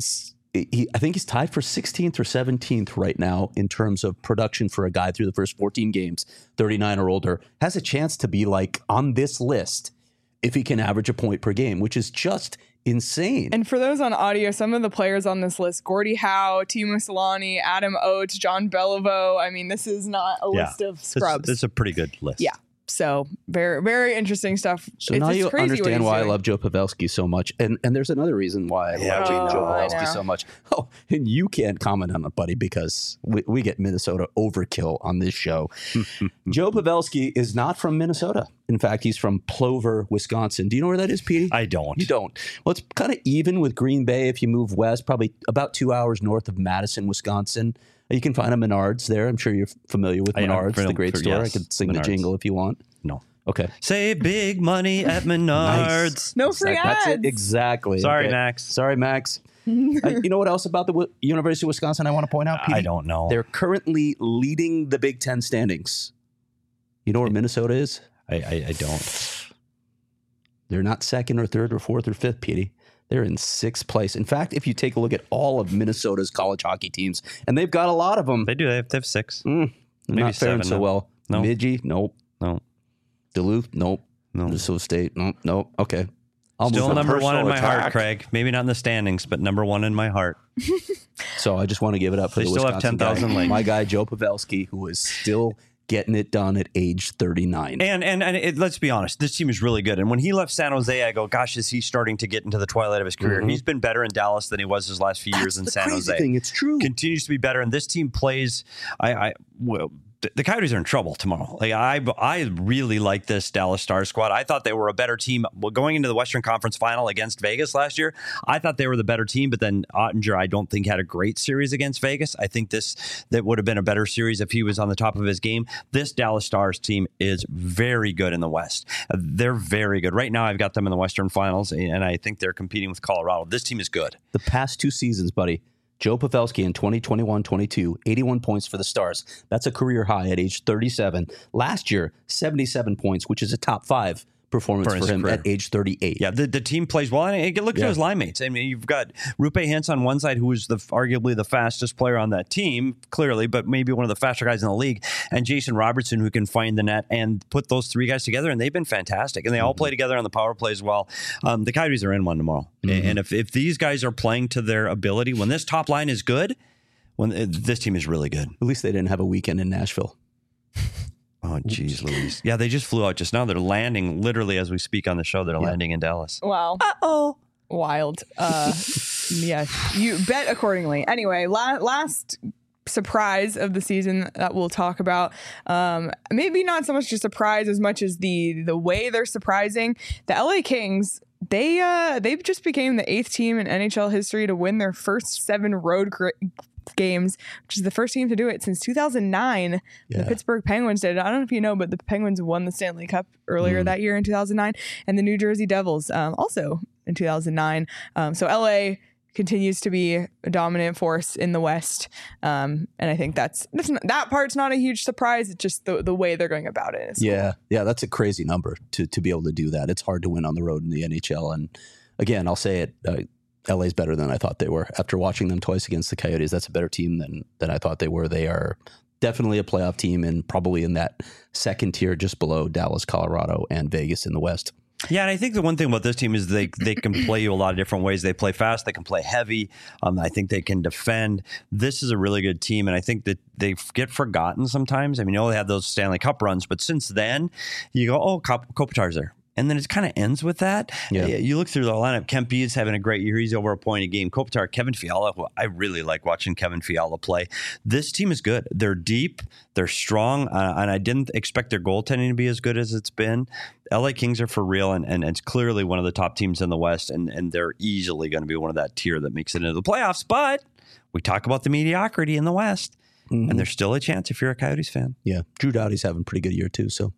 He, I think he's tied for sixteenth or seventeenth right now in terms of production for a guy through the first fourteen games, thirty-nine or older. Has a chance to be like on this list if he can average a point per game, which is just insane. And for those on audio, some of the players on this list: Gordie Howe, Timo Solani, Adam Oates, John Beliveau. I mean, this is not a Yeah. list of This, scrubs. this is a pretty good list. Yeah. So very, very interesting stuff. So It's now just you crazy what understand he's why doing. I love Joe Pavelski so much. And and there's another reason why I Yeah, love we Joe know. I Pavelski know. so much. Oh, and you can't comment on it, buddy, because we, we get Minnesota overkill on this show. Joe Pavelski is not from Minnesota. In fact, he's from Plover, Wisconsin. Do you know where that is, Petey? I don't. You don't. Well, it's kind of even with Green Bay if you move west, probably about two hours north of Madison, Wisconsin. You can find a Menards there. I'm sure you're familiar with I am Menards, the familiar- great store. yes, I could sing Menards. the jingle if you want. No. Okay. Save big money at Menards. No free Exact- That's ads. it. Exactly. Sorry, Okay. Max. Sorry, Max. Uh, you know what else about the w- University of Wisconsin I want to point out, P D? I don't know. They're currently leading the Big Ten standings. You know where Minnesota is? I, I, I don't. They're not second or third or fourth or fifth, P D. They're in sixth place. In fact, if you take a look at all of Minnesota's college hockey teams, and they've got a lot of them. They do. They have, they have six. Mm, Maybe not faring seven, so no. well. No. Midgey, nope. No. Duluth, nope. No. Minnesota State, nope. Nope. Okay. I'll Still move on. number one in personal my heart, attack. Craig. Maybe not in the standings, but number one in my heart. So I just want to give it up for They the still have Wisconsin ten thousand guy. legs. My guy, Joe Pavelski, who is still getting it done at age thirty-nine. And and and it, let's be honest, this team is really good. And when he left San Jose, I go, gosh, is he starting to get into the twilight of his career? Mhm. He's been better in Dallas than he was his last few That's years in the San crazy Jose. thing. It's true. Continues to be better, and this team plays. I, I well, the, the Coyotes are in trouble tomorrow. Like I, I really like this Dallas Stars squad. I thought they were a better team well, going into the Western Conference Final against Vegas last year. I thought they were the better team, but then Ottinger, I don't think had a great series against Vegas. I think this that would have been a better series if he was on the top of his game. This Dallas Stars team is very good in the West. Uh, They're very good right now. I've got them in the Western Finals, and I think they're competing with Colorado. This team is good. The past two seasons, buddy, Joe Pavelski in twenty twenty-one twenty-two, eighty-one points for the Stars. That's a career high at age thirty-seven. Last year, seventy-seven points, which is a top five performance For for, his him career. at age thirty-eight. Yeah, the, the team plays well. And look Yeah. at his line mates. I mean, you've got Rupe Hintz on one side, who is the arguably the fastest player on that team, clearly, but maybe one of the faster guys in the league, and Jason Robertson, who can find the net and put those three guys together, and they've been fantastic. And they all play together on the power play as well. Um, the Coyotes are in one tomorrow. Mm-hmm. And if, if these guys are playing to their ability, when this top line is good, when uh, this team is really good. At least they didn't have a weekend in Nashville. Oh, geez, Louise. Yeah, they just flew out just now. They're landing literally as we speak on the show. They're Yeah. landing in Dallas. Wow. Uh-oh. Wild. Uh, yeah, you bet accordingly. Anyway, la- last surprise of the season that we'll talk about. Um, maybe not so much a surprise as much as the the way they're surprising. The L A Kings. They uh they just became the eighth team in N H L history to win their first seven road gr- games, which is the first team to do it since two thousand nine. Yeah. The Pittsburgh Penguins did it. I don't know if you know, but the Penguins won the Stanley Cup earlier Mm. that year in two thousand nine, and the New Jersey Devils um, also in two thousand nine. Um, so L A continues to be a dominant force in the West, um, and I think that's, that's not, that part's not a huge surprise. It's just the the way they're going about it. Is cool. Yeah, yeah, that's a crazy number to to be able to do that. It's hard to win on the road in the N H L. And again, I'll say it, uh, L A's better than I thought they were. After watching them twice against the Coyotes, that's a better team than than I thought they were. They are definitely a playoff team and probably in that second tier just below Dallas, Colorado, and Vegas in the West. Yeah, and I think the one thing about this team is they they can play you a lot of different ways. They play fast, they can play heavy. Um, I think they can defend. This is a really good team, and I think that they get forgotten sometimes. I mean, you know, they had those Stanley Cup runs, but since then, you go, oh, Kop- Kopitar's there. And then it kind of ends with that. Yeah. You look through the lineup. Kempe is having a great year. He's over a point a game. Kopitar, Kevin Fiala. Well, I really like watching Kevin Fiala play. This team is good. They're deep. They're strong. Uh, and I didn't expect their goaltending to be as good as it's been. L A Kings are for real, and, and it's clearly one of the top teams in the West. And, and they're easily going to be one of that tier that makes it into the playoffs. But we talk about the mediocrity in the West. Mhm. And there's still a chance if you're a Coyotes fan. Yeah, Drew Doughty's having a pretty good year too. So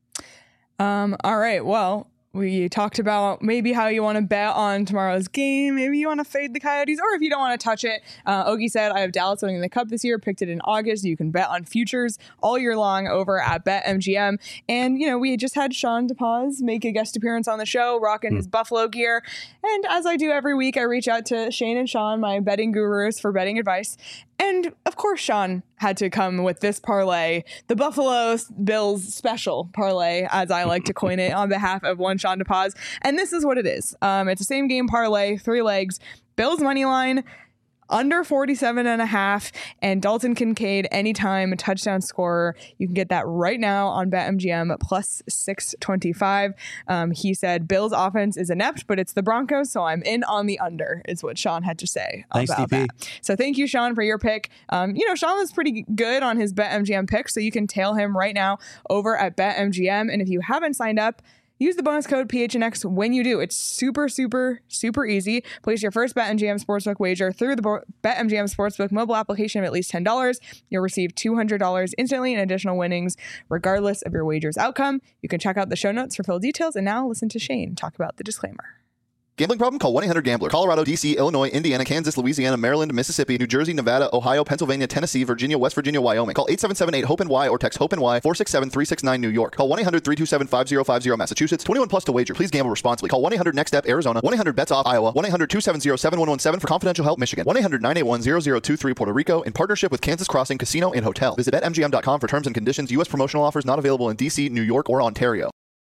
Um, all right. Well, we talked about maybe how you want to bet on tomorrow's game. Maybe you want to fade the Coyotes, or if you don't want to touch it. Uh, Ogie said, I have Dallas winning the Cup this year, picked it in August. You can bet on futures all year long over at BetMGM. And, you know, we just had Sean DePaz make a guest appearance on the show, rocking his Buffalo gear. And as I do every week, I reach out to Shane and Sean, my betting gurus, for betting advice. And of course, Sean had to come with this parlay, the Buffalo Bills special parlay, as I like to coin it, on behalf of one Sean DePaz. And this is what it is. Um, it's a same game parlay, three legs, Bills money line, under forty-seven and a half, and Dalton Kincaid anytime, a touchdown scorer. You can get that right now on BetMGM plus six twenty-five. Um, he said Bills offense is inept, but it's the Broncos, so I'm in on the under, is what Sean had to say Thanks, about D P. that. So thank you, Sean, for your pick. Um, you know, Sean was pretty good on his BetMGM pick, so you can tail him right now over at BetMGM. And if you haven't signed up, use the bonus code P H N X when you do. It's super, super, super easy. Place your first BetMGM Sportsbook wager through the Bo- BetMGM Sportsbook mobile application of at least ten dollars. You'll receive two hundred dollars instantly in additional winnings, regardless of your wager's outcome. You can check out the show notes for full details. And now listen to Shane talk about the disclaimer. Gambling problem? Call one eight hundred gambler. Colorado, D C, Illinois, Indiana, Kansas, Louisiana, Maryland, Mississippi, New Jersey, Nevada, Ohio, Pennsylvania, Tennessee, Virginia, West Virginia, Wyoming. Call eight seven seven eight hope N Y or text hope N Y four six seven three six nine New York. Call one eight hundred three two seven five zero five zero Massachusetts. twenty-one plus to wager. Please gamble responsibly. Call one eight hundred next step Arizona. one eight hundred bets off Iowa. one eight hundred two seven zero seven one one seven for confidential help Michigan. one eight hundred nine eight one zero zero two three Puerto Rico in partnership with Kansas Crossing Casino and Hotel. Visit bet M G M dot com for terms and conditions. U S promotional offers not available in D C, New York, or Ontario.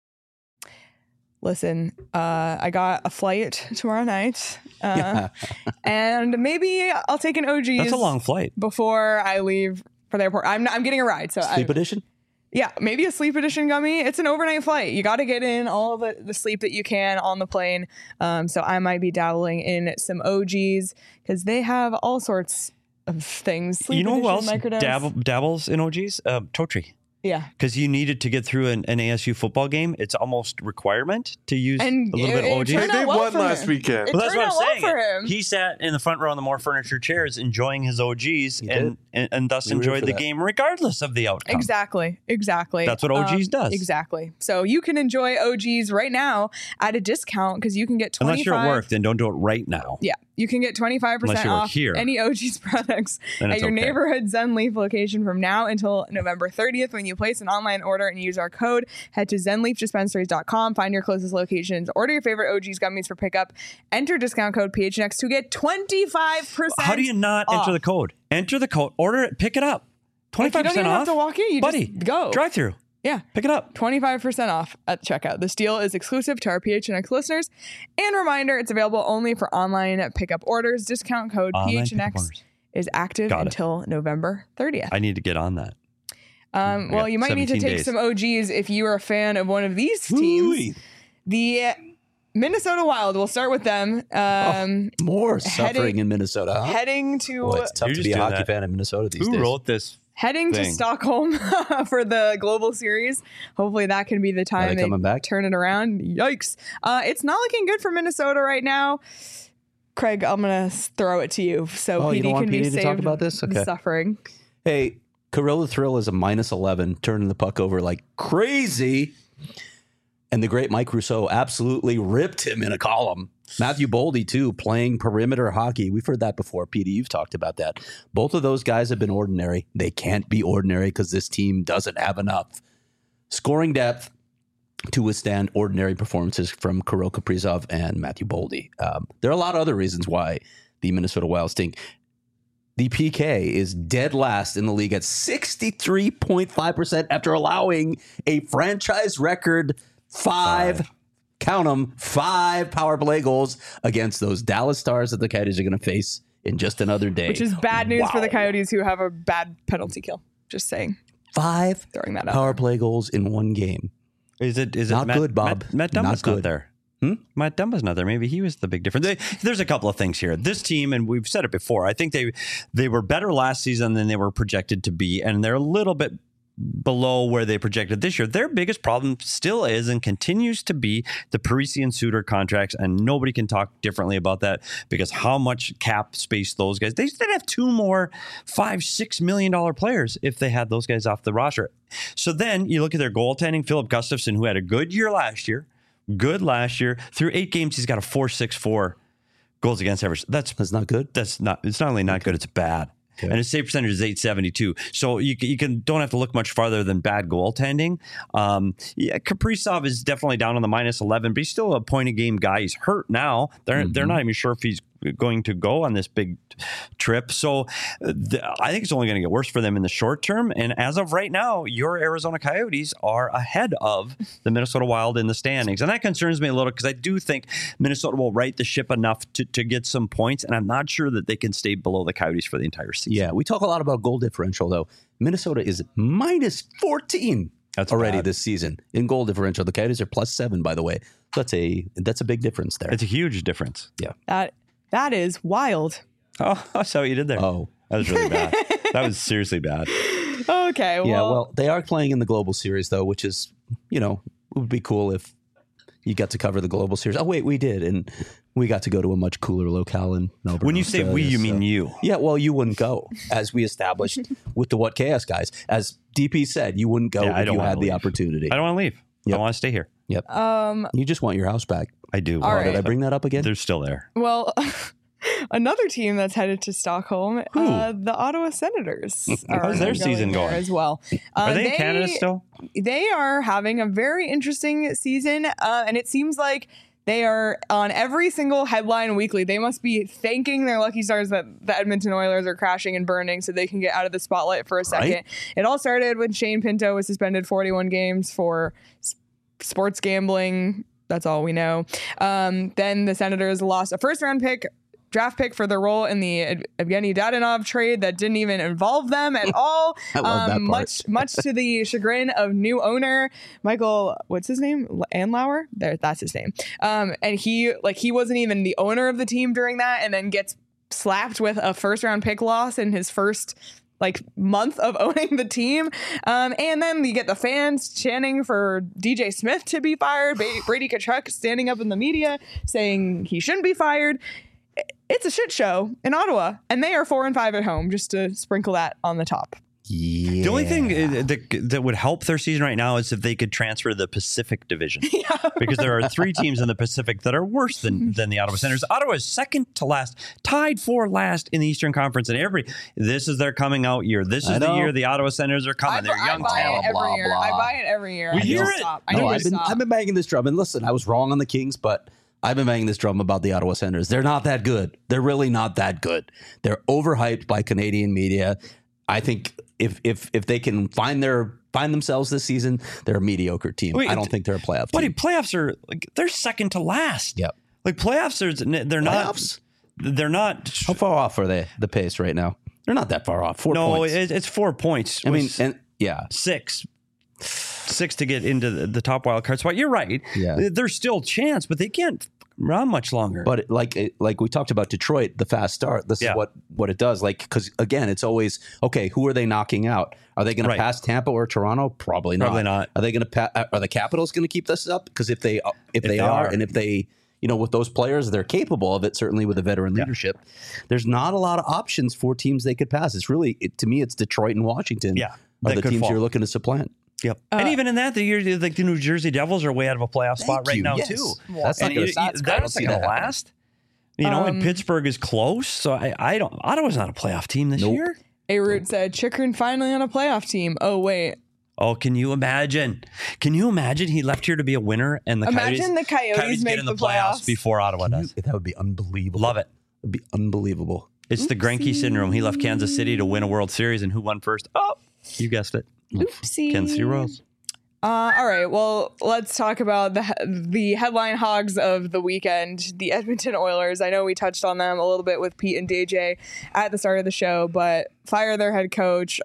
Listen, uh, I got a flight tomorrow night, uh, and maybe I'll take an O G's. That's a long flight. Before I leave for the airport. I'm I'm getting a ride. So Sleep I, edition? Yeah, maybe a sleep edition gummy. It's an overnight flight. You got to get in all the, the sleep that you can on the plane. Um, so I might be dabbling in some O Gs because they have all sorts of things. Sleep you know who else edition, microdose. dabble, dabbles in O Gs? Uh, Totri. Yeah. Because you needed to get through an, an A S U football game. It's almost requirement to use And a little it- bit of O it Gs. turned They out well won for last him. weekend. It Well, that's turned what I'm out well saying. for him. He sat in the front row on the more furniture chairs, enjoying his O Gs, He and, and and thus We were enjoyed for the that. game regardless of the outcome. Exactly. Exactly. That's what O Gs Um, does. Exactly. So you can enjoy O Gs right now at a discount because you can get twenty-five Unless you're at work, then don't do it right now. Yeah, you can get twenty-five Unless percent you work off here. any O G's products Then at it's your okay. neighborhood Zen Leaf location from now until November thirtieth. When you place an online order and use our code, head to zen leaf dispensaries dot com, find your closest locations, order your favorite O G's gummies for pickup, enter discount code P H N X to get twenty-five percent How do you not off. enter the code? Enter the code, order it, pick it up. Like, you twenty-five don't percent even off. have to walk in. You Buddy, just go. drive through. Yeah. Pick it up. twenty-five percent off at checkout. This deal is exclusive to our P H N X listeners. And reminder, it's available only for online pickup orders. Discount code Online P H N pickup X orders. is active Got it. until November thirtieth. I need to get on that. Um, I well, got you might need to seventeen take days. some O Gs if you are a fan of one of these teams. The Minnesota Wild, we'll start with them. Um, More Heading- suffering in Minnesota, huh? Heading to Boy, it's tough You're to just be a doing hockey that. fan in Minnesota these Who days. wrote this? heading to thing. Stockholm for the Global Series. Hopefully that can be the time they they coming back? turn it around. Yikes. Uh, it's not looking good for Minnesota right now. Craig, I'm going to throw it to you so Oh, P you D don't want can be P D to saved talk about this? the Okay. suffering. Hey, Corilla Thrill is a minus eleven, turning the puck over like crazy. And the great Mike Rousseau absolutely ripped him in a column. Matthew Boldy, too, playing perimeter hockey. We've heard that before. P D, you've talked about that. Both of those guys have been ordinary. They can't be ordinary because this team doesn't have enough scoring depth to withstand ordinary performances from Kirill Kaprizov and Matthew Boldy. Um, there are a lot of other reasons why the Minnesota Wild stink. The P K is dead last in the league at sixty-three point five percent after allowing a franchise record five, five. count them, five power play goals against those Dallas Stars that the Coyotes are going to face in just another day. Which is bad news Wow. for the Coyotes who have a bad penalty kill. Just saying. Five Throwing that out power there. play goals in one game. Is it? Is Not it Matt, good, Bob. Matt, Matt Not Dumba's not good. there. Hmm? Matt Dumba's not there. Maybe he was the big difference. They, there's a couple of things here. This team, and we've said it before, I think they they were better last season than they were projected to be, and they're a little bit below where they projected this year. Their biggest problem still is and continues to be the Parisi and Suter contracts, and nobody can talk differently about that because how much cap space those guys, they did have two more five, six million dollar players if they had those guys off the roster. So then you look at their goaltending, Philip Gustafson, who had a good year last year, good last year. Through eight games, he's got a four six four goals against average. That's That's not good. that's not. It's not only not good. It's bad. Okay. And his save percentage is eight seventy-two. So you can, you can don't have to look much farther than bad goaltending. Um, yeah, Kaprizov is definitely down on the minus eleven, but he's still a point a game guy. He's hurt now. They're Mm-hmm. they're not even sure if he's going to go on this big trip. So uh, the, I think it's only going to get worse for them in the short term. And as of right now, your Arizona Coyotes are ahead of the Minnesota Wild in the standings. And that concerns me a little because I do think Minnesota will right the ship enough to, to get some points. And I'm not sure that they can stay below the Coyotes for the entire season. Yeah, we talk a lot about goal differential, though. Minnesota is minus fourteen That's already bad. this season in goal differential. The Coyotes are plus seven, by the way. That's a that's a big difference there. It's a huge difference. yeah. That That is wild. Oh, I saw what you did there. Oh. That was really bad. That was seriously bad. Okay. Well, Yeah, well, they are playing in the Global Series, though, which is, you know, it would be cool if you got to cover the Global Series. Oh, wait, we did. And we got to go to a much cooler locale in Melbourne. When you say we, Australia, you mean so- you. Yeah, well, you wouldn't go, as we established with the What Chaos guys. As D P said, you wouldn't go Yeah, I if don't you wanna had the leave. opportunity. I don't want to leave. I want to stay here. Yep. Um, You just want your house back. I do. All Oh, right. Did I bring that up again? They're still there. well, another team that's headed to Stockholm, Who? uh, the Ottawa Senators. are How's their going season there going? as well? Uh, Are they in Canada still? They are having a very interesting season, uh, and it seems like they are on every single headline weekly. They must be thanking their lucky stars that the Edmonton Oilers are crashing and burning so they can get out of the spotlight for a second. Right. It all started when Shane Pinto was suspended forty-one games for s- sports gambling. That's all we know. Um, then the Senators lost a first round pick, draft pick for their role in the Ev- Evgeny Dadonov trade that didn't even involve them at all. I love that part. Much, much to the chagrin of new owner Michael. What's his name? L- Anlauer. There, that's his name. Um, and he like he wasn't even the owner of the team during that, and then gets slapped with a first round pick loss in his first like month of owning the team. Um, and then you get the fans chanting for D J Smith to be fired. Ba- Brady Tkachuk standing up in the media saying he shouldn't be fired. It's a shit show in Ottawa, and they are four and five at home, just to sprinkle that on the top. Yeah. The only thing uh, that, that would help their season right now is if they could transfer to the Pacific Division. Because there are three teams in the Pacific that are worse than, than the Ottawa Senators. Ottawa is second to last, tied for last in the Eastern Conference. And every this is their coming out year. This I is the know. year the Ottawa Senators are coming. I, They're I young buy talent. it every blah, year. blah. I buy it every year. We I need hear to it. stop. I No, need I've to been stop. I've been banging this drum, and listen, I was wrong on the Kings, but I've been banging this drum about the Ottawa Senators. They're not that good. They're really not that good. They're overhyped by Canadian media. I think if if if they can find their find themselves this season, they're a mediocre team. Wait, I don't think they're a playoff Buddy, team. playoffs are like they're second to last. Yep. Like playoffs are they're not Playoffs? they're not How far off are they? The pace right now? They're not that far off. Four no, points. it, it's four points. I mean, with and yeah, six. Six to get into the, the top wild card spot. You're right. Yeah. There's still a chance, but they can't run much longer. but it- like it- like we talked about Detroit, the fast start. This Yeah. is what what it does. Like because again, it's always okay. Who are they knocking out? Are they going Right. to pass Tampa or Toronto? Probably not. Probably not. Are they going to? Pa- are the Capitals going to keep this up? Because if they if, they, they are, are. and if they you know with those players, they're capable of it. Certainly with the veteran leadership, there's not a lot of options for teams they could pass. It's really it, to me, it's Detroit and Washington. Yeah, are that the could teams fall. you're looking to supplant. Yep. and even in that, the year like the New Jersey Devils are way out of a playoff spot Thank right you. now Yes. too. That's not And going you- to. you- I That's don't not see going that to happen. last. You know, Um, and Pittsburgh is close, so I, I don't. Ottawa's not a playoff team this Nope. year. A Root said, Chikrin finally on a playoff team. Oh, wait. Oh, can you imagine? Can you imagine he left here to be a winner and the Imagine Coyotes, the Coyotes make get in the, the playoffs playoffs. before Ottawa does? That would be unbelievable. Love it. It would be unbelievable. It's the Greinke syndrome. He left Kansas City to win a World Series, and who won first? Oh, you guessed it. Oopsie. Kansas City Royals. Uh, all right. Well, let's talk about the the headline hogs of the weekend, the Edmonton Oilers. I know we touched on them a little bit with Pete and D J at the start of the show, but fire their head coach.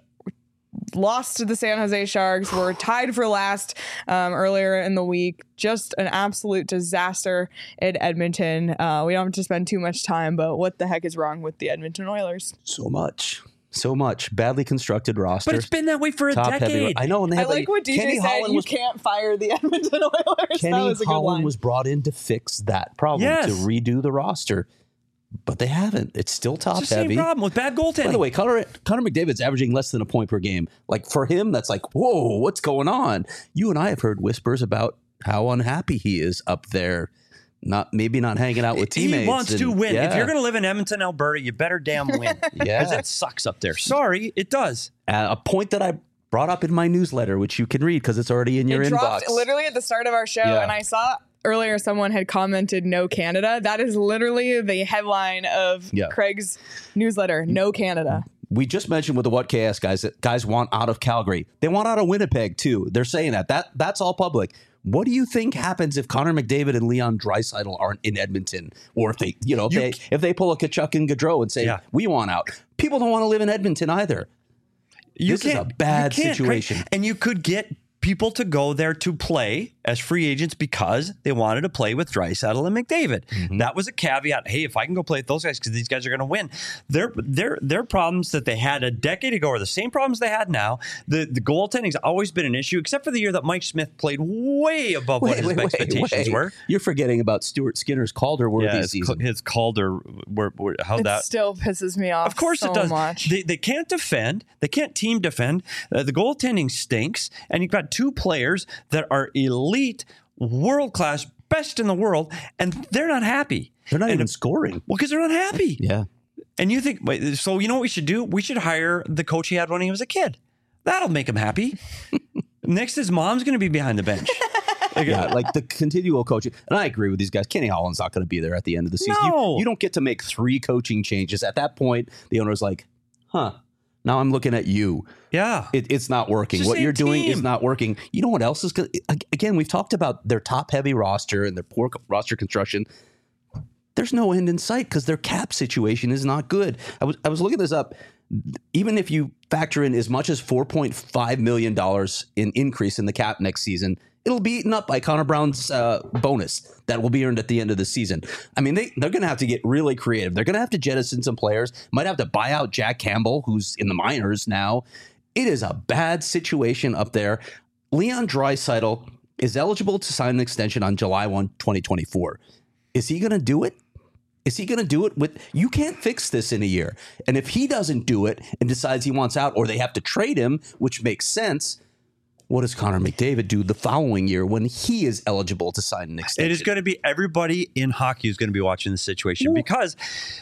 Lost to the San Jose Sharks. Were tied for last um, earlier in the week. Just an absolute disaster in Edmonton. Uh, we don't have to spend too much time, but what the heck is wrong with the Edmonton Oilers? So much. So much. Badly constructed roster. But it's been that way for a Top heavy. decade. I know, and they I have like a, what D J Kenny said. Holland You was, can't fire the Edmonton Oilers. Kenny that was a good Holland line. was brought in to fix that problem, Yes. to redo the roster, but they haven't. It's still top It's the same heavy. problem with bad goaltending. By the way, Connor, Connor McDavid's averaging less than a point per game. Like for him, that's like, whoa, what's going on? You and I have heard whispers about how unhappy he is up there. Not maybe not hanging out with teammates. He wants and- to win. If yeah. you're going to live in Edmonton, Alberta, you better damn win. Yeah. Because it sucks up there. Sorry, it does. Uh, a point that I brought up in my newsletter, which you can read because it's already in your it inbox. dropped literally at the start of our show, Yeah. and I saw earlier someone had commented "No Canada." That is literally the headline of Yeah. Craig's newsletter. No Canada. We just mentioned with the What K S guys that guys want out of Calgary. They want out of Winnipeg too. They're saying that. That that's all public. What do you think happens if Connor McDavid and Leon Draisaitl aren't in Edmonton, or if they, you know, if You they c- if they pull a Kachuk and Gaudreau and say Yeah. we want out? People don't want to live in Edmonton either. You This is a can't- bad you can't, Craig. situation. And you could get people to go there to play as free agents because they wanted to play with Draisaitl and McDavid. Mm-hmm. That was a caveat. Hey, if I can go play with those guys because these guys are going to win. Their their their problems that they had a decade ago are the same problems they had now. The the goaltending's always been an issue, except for the year that Mike Smith played way above what his expectations were. You're forgetting about Stuart Skinner's Calder-worthy Yeah, his, season. his Calder, were, were, how It that still pisses me off. Of course so it does. Much. They, they can't defend. They can't team defend. Uh, the goaltending stinks. And you've got two players that are elite, world class, best in the world, and they're not happy. They're not and, even scoring. Well, because they're not happy. Yeah. And you think, wait, so you know what we should do? We should hire the coach he had when he was a kid. That'll make him happy. Next, his mom's going to be behind the bench. Yeah, like the continual coaching. And I agree with these guys. Kenny Holland's not going to be there at the end of the season. No. You, you don't get to make three coaching changes. At that point, the owner's like, huh, now I'm looking at you. Yeah. It, it's not working. It's the What same you're doing team. is not working. You know what else is going to, again, we've talked about their top-heavy roster and their poor roster construction. There's no end in sight because their cap situation is not good. I was I was looking this up. Even if you factor in as much as four point five million dollars in increase in the cap next season, it'll be eaten up by Connor Brown's uh, bonus that will be earned at the end of the season. I mean, they, they're going to have to get really creative. They're going to have to jettison some players. Might have to buy out Jack Campbell, who's in the minors now. It is a bad situation up there. Leon Draisaitl is eligible to sign an extension on July first, twenty twenty-four. Is he going to do it? Is he going to do it with, you can't fix this in a year. And if he doesn't do it and decides he wants out or they have to trade him, which makes sense, what does Connor McDavid do the following year when he is eligible to sign an extension? It is going to be everybody in hockey is going to be watching this situation because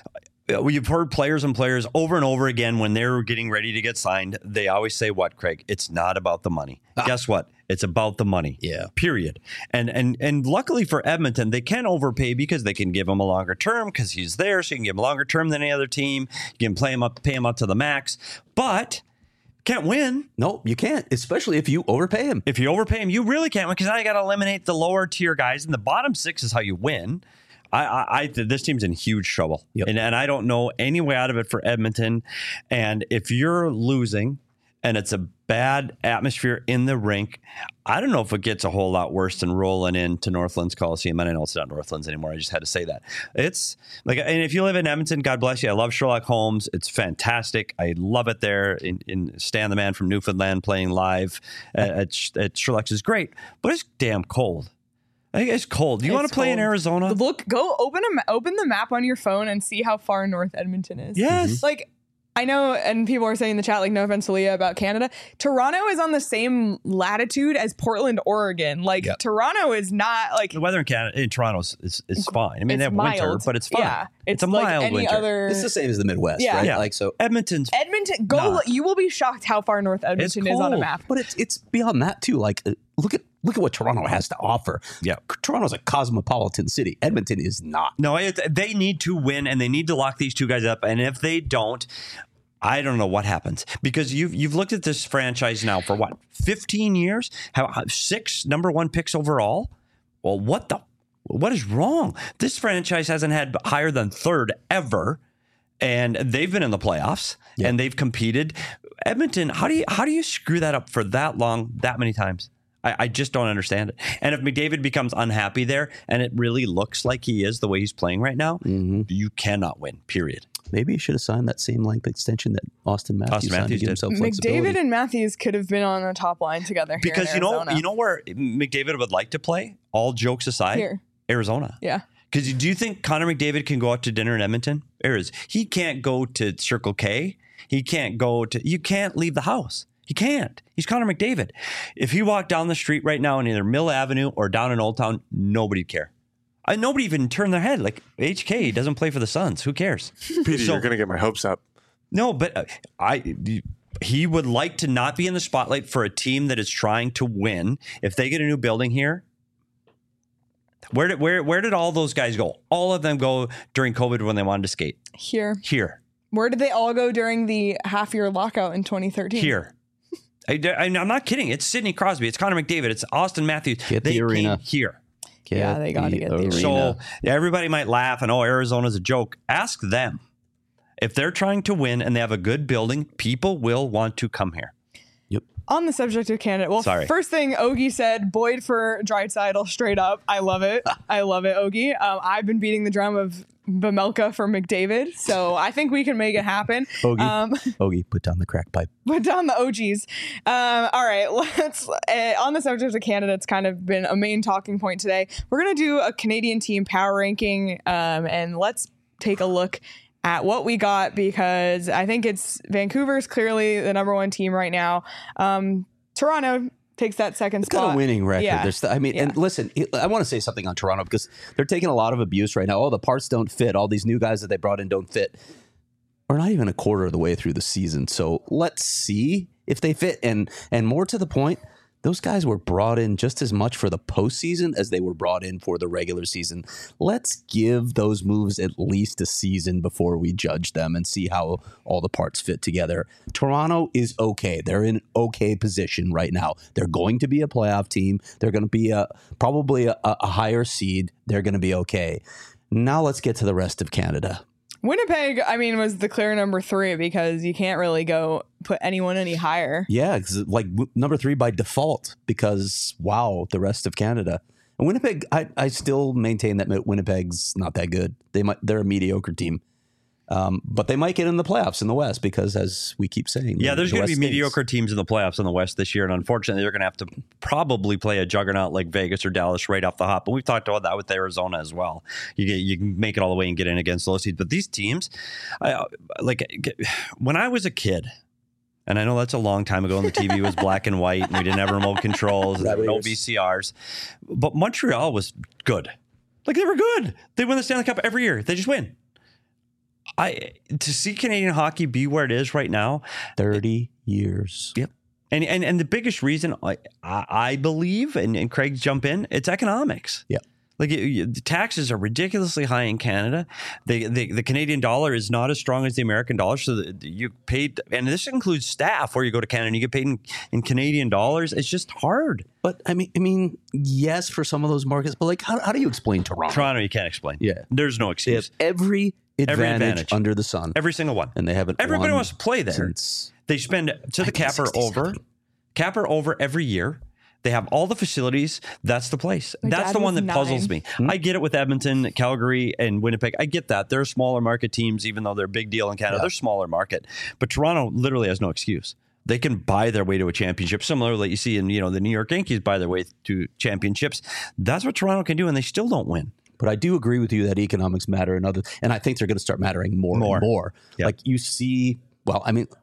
we've heard players and players over and over again when they're getting ready to get signed. They always say, what, Craig? It's not about the money. Ah. Guess what? It's about the money. Yeah. Period. And and and luckily for Edmonton, they can overpay because they can give him a longer term because he's there. So you can give him a longer term than any other team. You can play him up, pay him up to the max. But can't win. No, you can't, especially if you overpay him. If you overpay him, you really can't win because now you got to eliminate the lower tier guys. And the bottom six is how you win. I, I, I this team's in huge trouble. Yep. And, and I don't know any way out of it for Edmonton. And if you're losing and it's a bad atmosphere in the rink, I don't know if it gets a whole lot worse than rolling into Northlands Coliseum. And I know it's not Northlands anymore. I just had to say that. It's like, and if you live in Edmonton, God bless you. I love Sherlock Holmes. It's fantastic. I love it there. In, in Stan the Man from Newfoundland playing live at, at, at Sherlock's is great, but it's damn cold. I think it's cold. Do you It's want to play cold. in Arizona? Look, go open a ma- open the map on your phone and see how far north Edmonton is. Yes. Like, I know, and people are saying in the chat, like, no offense to Leah about Canada. Toronto is on the same latitude as Portland, Oregon. Like, Yep. Toronto is not like The weather in Canada, in Toronto is, is, is fine. I mean, it's they have mild. winter, but it's fine. Yeah, it's, a like mild any winter. other. It's the same as the Midwest, Yeah. right? Yeah. Like so. Edmonton's Edmonton, go. Nah. You will be shocked how far north Edmonton is on a cold. map. But it's it's beyond that too. Like uh, look at look at what Toronto has to offer. Yeah. Toronto's a cosmopolitan city. Edmonton is not. No, it, they need to win, and they need to lock these two guys up. And if they don't, I don't know what happens because you've you've looked at this franchise now for what fifteen years, how, how six number one picks overall. Well, what the what is wrong? This franchise hasn't had higher than third ever, and they've been in the playoffs Yeah. and they've competed. Edmonton, how do you how do you screw that up for that long, that many times? I, I just don't understand it. And if McDavid becomes unhappy there, and it really looks like he is the way he's playing right now, Mm-hmm. you cannot win. Period. Maybe he should have signed that same length extension that Austin Matthews Austin signed Matthews to give did. himself flexibility. McDavid and Matthews could have been on the top line together here Because in you know, Arizona. you know where McDavid would like to play. All jokes aside, Here. Arizona. Yeah. Because do you think Connor McDavid can go out to dinner in Edmonton? Arizona. He can't go to Circle K. He can't go to. You can't leave the house. He can't. He's Connor McDavid. If he walked down the street right now in either Mill Avenue or down in Old Town, nobody'd care. I, nobody even turned their head. Like H K doesn't play for the Suns. Who cares? Peter, So- you're going to get my hopes up. No, but uh, I he would like to not be in the spotlight for a team that is trying to win. If they get a new building here, where did where where did all those guys go? All of them go during COVID when they wanted to skate. Here. Here, Where did they all go during the half year lockout in twenty thirteen? here. I, I, I'm not kidding. It's Sidney Crosby. It's Connor McDavid. It's Austin Matthews. Get they the arena. came here. Yeah, they gotta get the arena. So yeah, everybody might laugh and oh, Arizona's a joke. Ask them. If they're trying to win and they have a good building, people will want to come here. On the subject of Canada, well, Sorry. first thing Ogie said, Boyd for Draisaitl, straight up. I love it. I love it, Ogie. Um, I've been beating the drum of Bamelka for McDavid, so I think we can make it happen. Ogie, Um, Ogie, put down the crack pipe. Put down the O Gs. Um, all right, let's. Uh, on the subject of Canada, it's kind of been a main talking point today. We're going to do a Canadian team power ranking, um, and let's take a look at what we got because I think it's Vancouver's clearly the number one team right now. Um, Toronto, takes that second It's spot. got a winning record. Yeah. There's, I mean, Yeah. and listen, I want to say something on Toronto because they're taking a lot of abuse right now. Oh, the parts don't fit. All these new guys that they brought in don't fit. We're not even a quarter of the way through the season, so let's see if they fit. And and more to the point, those guys were brought in just as much for the postseason as they were brought in for the regular season. Let's give those moves at least a season before we judge them and see how all the parts fit together. Toronto is okay. They're in okay position right now. They're going to be a playoff team. They're going to be a probably a, a higher seed. They're going to be okay. Now let's get to the rest of Canada. Winnipeg, I mean, was the clear number three because you can't really go put anyone any higher. Yeah, 'cause like w- number three by default because, wow, the rest of Canada. And Winnipeg, I, I still maintain that Winnipeg's not that good. They might, they're a mediocre team. Um, but they might get in the playoffs in the West because, as we keep saying, Yeah, the- there's the going to West be stinks. mediocre teams in the playoffs in the West this year, and unfortunately, they're going to have to probably play a juggernaut like Vegas or Dallas right off the hop. But we've talked about that with Arizona as well. You get you can make it all the way and get in against those teams, but these teams, I, like when I was a kid. And I know that's a long time ago, and the T V was black and white, and we didn't have remote controls, and there were no V C Rs. But Montreal was good. Like, they were good. They win the Stanley Cup every year. They just win. I to see Canadian hockey be where it is right now, thirty years. Yep. And and and the biggest reason I I believe, and, and Craig jump in, it's economics. Yeah. Like it, you, the taxes are ridiculously high in Canada. The, the the Canadian dollar is not as strong as the American dollar, so the, you paid, and this includes staff where you go to Canada and you get paid in, in Canadian dollars. It's just hard. But I mean, I mean, yes, for some of those markets, but like, how, how do you explain Toronto? Toronto, you can't explain. Yeah. There's no They have excuse. every advantage, Every advantage. under the sun, Every single one. and they haven't. Everybody won wants to play there. since They spend to the capper over, capper over every year. They have all the facilities. That's the place. My That's dad the one was that puzzles nine. me. I get it with Edmonton, Calgary, and Winnipeg. I get that. They're smaller market teams, even though they're a big deal in Canada. Yeah. They're smaller market. But Toronto literally has no excuse. They can buy their way to a championship. Similarly, you see in, you know, the New York Yankees buy their way to championships. That's what Toronto can do, and they still don't win. But I do agree with you that economics matter and other, and I think they're going to start mattering more, More. and more. Yep. Like you see, well, I mean,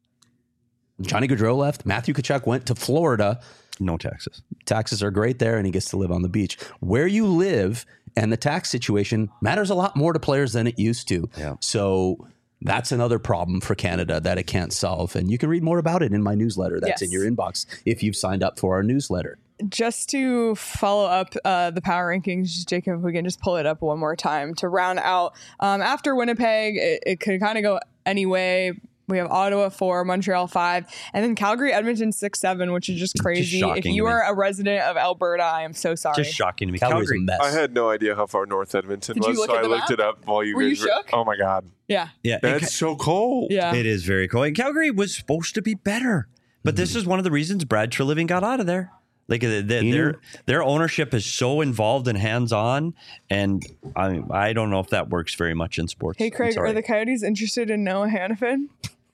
Johnny Gaudreau left. Matthew Tkachuk went to Florida. No taxes. Taxes are great there, and he gets to live on the beach. Where you live and the tax situation matters a lot more to players than it used to. Yeah. So that's another problem for Canada that it can't solve. And you can read more about it in my newsletter. That's Yes. in your inbox if you've signed up for our newsletter. Just to follow up uh, the power rankings, Jacob, if we can just pull it up one more time to round out. Um, after Winnipeg, it, it could kind of go any way. We have Ottawa four, Montreal five, and then Calgary, Edmonton six, seven, which is just crazy. shocking If to you me. are a resident of Alberta, I am so sorry. Just shocking to me. Calgary's Calgary. a mess. I had no idea how far north Edmonton Did you was, look so at I the looked map? it up while you Were you guys shook? Oh my god, Yeah. Yeah. and that's so cold. Yeah. It is very cool. And Calgary was supposed to be better, but this is one of the reasons Brad Treliving got out of there. Like the, the, You their know- their ownership is so involved and hands on, and I I don't know if that works very much in sports. Hey, I'm Craig, sorry. are the Coyotes interested in Noah Hannafin?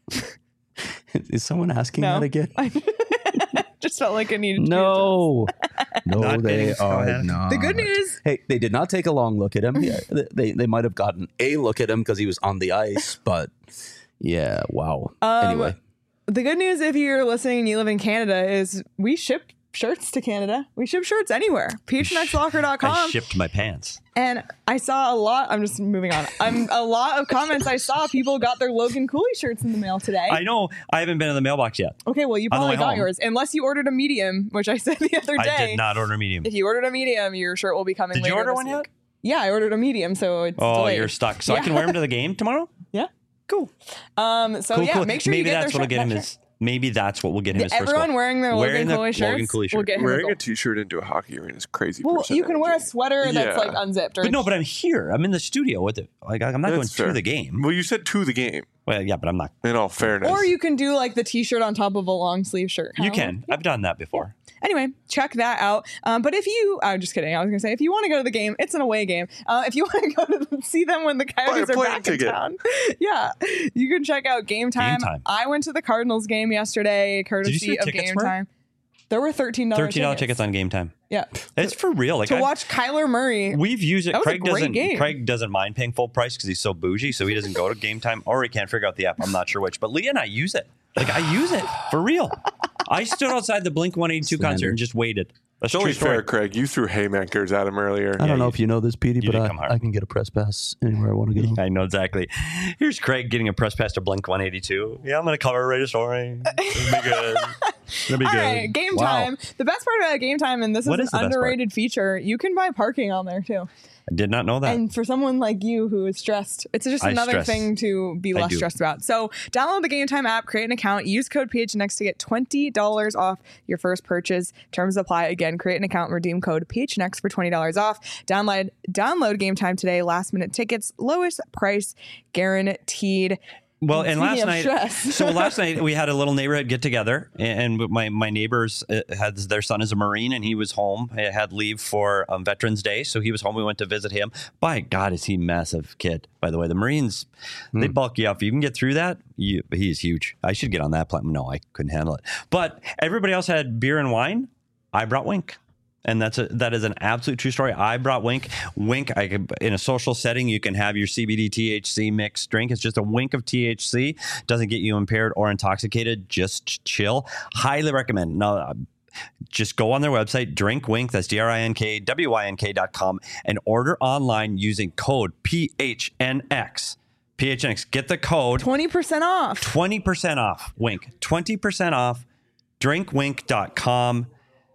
Is someone asking No. that again? Just felt like I needed to. No. No, Not they getting are Noah not. The good news, Hey, they did not take a long look at him. Yeah, they- they they might have gotten a look at him because he was on the ice, but yeah, wow. Um, anyway, the good news if you're listening and you live in Canada is we ship shirts to Canada. We ship shirts anywhere. P H N X locker dot com. I shipped my pants. And I saw a lot. I'm just moving on. I'm a lot of comments I saw. People got their Logan Cooley shirts in the mail today. I know. I haven't been in the mailbox yet. Okay, well, you On the probably way got home. yours, unless you ordered a medium, which I said the other day. I did not order medium. If you ordered a medium, your shirt will be coming. Did you later order this one yet? week. Yeah, I ordered a medium, so it's Oh, delayed. you're stuck. So I Yeah. can wear them to the game tomorrow. Yeah. Cool. Um. So cool. yeah, cool. make sure maybe you get that's their what'll shirt, get him that his. Maybe that's what will get him his shirt. first Everyone goal. wearing their Wearing Logan the Cooley shirts Logan Cooley will shirt. get him a Wearing goal. a t-shirt into a hockey arena is crazy. Well, person you can wear a energy. sweater that's Yeah. like unzipped. Or But no, but I'm here. I'm in the studio with it. Like I'm not That's going fair. to the game. Well, you said to the game. Well, yeah, but I'm not. In all fairness, or you can do like the t-shirt on top of a long sleeve shirt. You How- can. I've done that before. Anyway, check that out. Um, but if you, I'm just kidding. I was gonna say if you want to go to the game, it's an away game. Uh, if you want to go to the, see them when the Coyotes are plane back ticket. in town, yeah, you can check out Game Time. Time. I went to the Cardinals game yesterday, courtesy see what of tickets Game were? Time. There were thirteen dollars. Thirteen dollar tickets on Game Time. Yeah, It's for real. Like to I- watch Kyler Murray. We've used it. That was a Craig great doesn't. game. Craig doesn't mind paying full price because he's so bougie, so he doesn't go to Game Time, or he can't figure out the app. I'm not sure which. But Leah and I use it. Like I use it for real. I stood outside the Blink one eighty-two Slander. concert and just waited. That's It's only true story. fair, Craig. You threw haymakers at him earlier. I don't know if you know this, Petey, you but did come I, hard. I can get a press pass anywhere I want to get them. I know exactly. Here's Craig getting a press pass to Blink one eighty-two. Yeah, I'm going to cover right a story. It'll be good. It'll be All good. right, game Wow. time. The best part about game time, and this What is is the an best part? underrated feature, you can buy parking on there too. I did not know that. And for someone like you who is stressed, it's just I another stress. thing to be I less do. stressed about. So download the Game Time app, create an account, use code P H N X to get twenty dollars off your first purchase. Terms apply. Again, create an account, redeem code P H N X for twenty dollars off. Download, download Game Time today. Last minute tickets, lowest price guaranteed. Well, and last Speaking of night, stress. so last night we had a little neighborhood get together, and my my neighbors uh, had their son is a Marine, and he was home. He had leave for um, Veterans Day, so he was home. We went to visit him. By God, is he a massive kid? By the way, the Marines they bulk you up. If you can get through that, you, he's huge. I should get on that platform. No, I couldn't handle it. But everybody else had beer and wine. I brought Wink. And that's a, that is an absolute true story. I brought Wink. Wink, I could, in a social setting, you can have your C B D T H C mixed drink. It's just a wink of T H C. Doesn't get you impaired or intoxicated. Just chill. Highly recommend. Now, uh, just go on their website, Drink Wink. That's D R I N K W Y N K dot com, and order online using code P H N X. P H N X. Get the code. twenty percent off. twenty percent off. Wink. twenty percent off. drink wink dot com.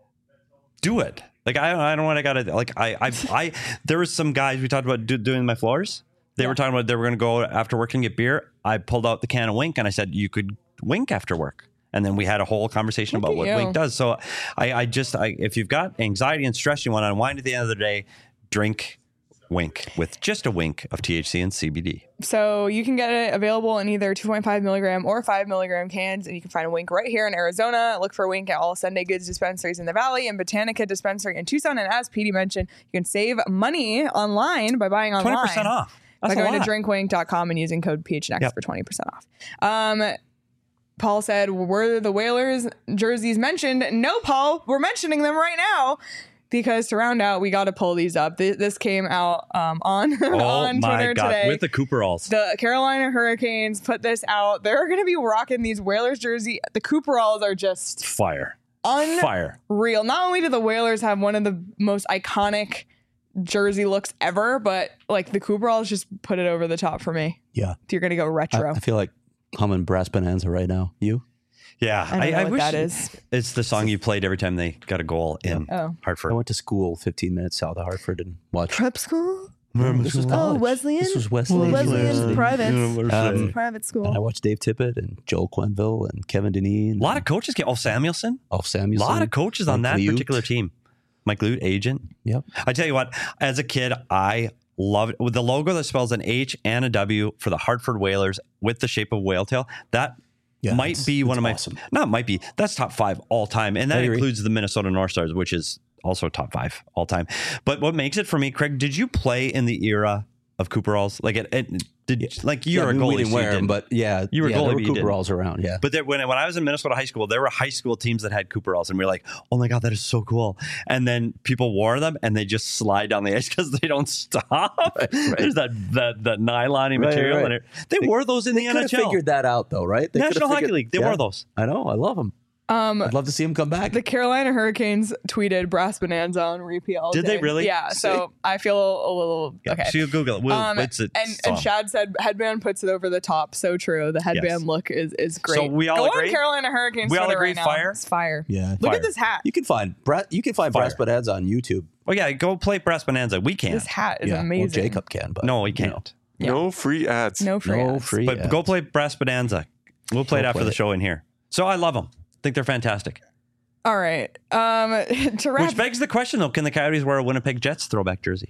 Do it. Like I, I don't know what I gotta like. I, I, I. There was some guys we talked about do, doing my floors. They Yeah. were talking about they were going to go after work and get beer. I pulled out the can of Wink and I said you could wink after work. And then we had a whole conversation Look about at what you. Wink does. So I, I just, I, if you've got anxiety and stress, you want to unwind at the end of the day, drink Wink with just a wink of T H C and C B D. So you can get it available in either two point five milligram or five milligram cans, and you can find a Wink right here in Arizona. Look for Wink at all Sunday Goods dispensaries in the Valley and Botanica dispensary in Tucson. And as Petey mentioned, you can save money online by buying online. twenty percent off. That's by a going to lot. drink wink dot com and using code P H N X Yep. for twenty percent off. Um, Paul said, were the Whalers jerseys mentioned? No, Paul, we're mentioning them right now. Because to round out, we got to pull these up. Th- This came out um, on, Oh on my Twitter God. today. With the Cooperalls. The Carolina Hurricanes put this out. They're going to be rocking these Whalers jersey. The Cooperalls are just Fire. unreal. Fire. Not only do the Whalers have one of the most iconic jersey looks ever, but like the Cooperalls just put it over the top for me. Yeah. You're going to go I, retro. I feel like humming Brass Bonanza right now. You? Yeah. I don't know what wish that is. It's the song you played every time they got a goal in Oh. I Hartford. went to school fifteen minutes south of Hartford and watched. Prep school? This was Oh, college. Wesleyan? This was Wesleyan. Wesleyan's University. private. Um, Private school. And I watched Dave Tippett and Joel Quenville and Kevin Deneen. A lot of coaches get. Oh, Samuelson. Oh, A Samuelson. lot of coaches on Mike that Liute. particular team. Mike Lute, agent. Yep. I tell you what, as a kid, I loved with the logo that spells an H and a W for the Hartford Whalers with the shape of whale tail. That Yeah, might it's- be one it's of my, awesome. not might be, that's top five all time. And I that agree. includes the Minnesota North Stars, which is also top five all time. But what makes it for me, Craig, did you play in the era of Cooperalls? Like it, it did, like you're yeah, a we- goalie, we didn't so wear you them, didn't. but yeah, You were yeah, goalie, there but were you didn't. Cooperalls around. Yeah. But there, when, when I was in Minnesota high school, there were high school teams that had Cooperalls, and we were like, "Oh my god, that is so cool!" And then people wore them, and they just slide down the ice because they don't stop. right. There's that that that nylon Right, material, right. and it, they, They- wore those in They the could N have H L. figured that out, though, right? They could have National Hockey figured- League, they yeah. wore those. I know. I love them. Um, I'd love to see them come back. the Carolina Hurricanes tweeted Brass Bonanza on repeat all Did day. they really? Yeah. So I feel a little Yeah, okay. So you Google it. We'll, Um, it's a and, song. and Shad said headband puts it over the top. So true. The headband Yes. look is is great. So we all Go agree? on Carolina Hurricanes. We all Twitter agree right now. fire? It's fire. yeah. Look Fire. at this hat. You can find Bra- You can find Fire. Brass Bonanza on YouTube. oh yeah, go play Brass Bonanza. We can't. This hat is yeah. amazing. Well, Jacob can, but no, we you know. can't. Yeah. No free ads. No free. No ads. free. But ads. go play Brass Bonanza. We'll play it Go after play the it. show in here. So I love them. think they're fantastic. All right. Um, to wrap, Which begs the question, though: can the Coyotes wear a Winnipeg Jets throwback jersey?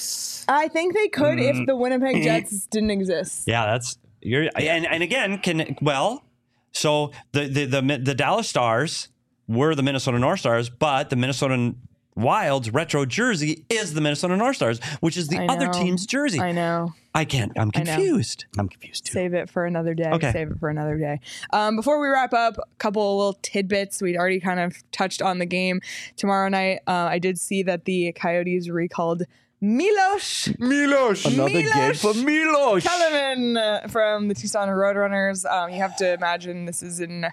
I think they could Mm. if the Winnipeg Jets didn't exist. Yeah, that's you're and, and again, can well, so the, the the the Dallas Stars were the Minnesota North Stars, but the Minnesota Wild's retro jersey is the Minnesota North Stars, which is the I other know. team's jersey. I know. I can't. I'm I know. confused. I'm confused too. Save it for another day. Okay. Save it for another day. Um, before we wrap up, a couple of little tidbits. We'd already kind of touched on the game tomorrow night. Uh, I did see that the Coyotes recalled Milos Milos. Another Milos game for Milos. Telemann uh, from the Tucson Roadrunners. Um, you have to imagine this is in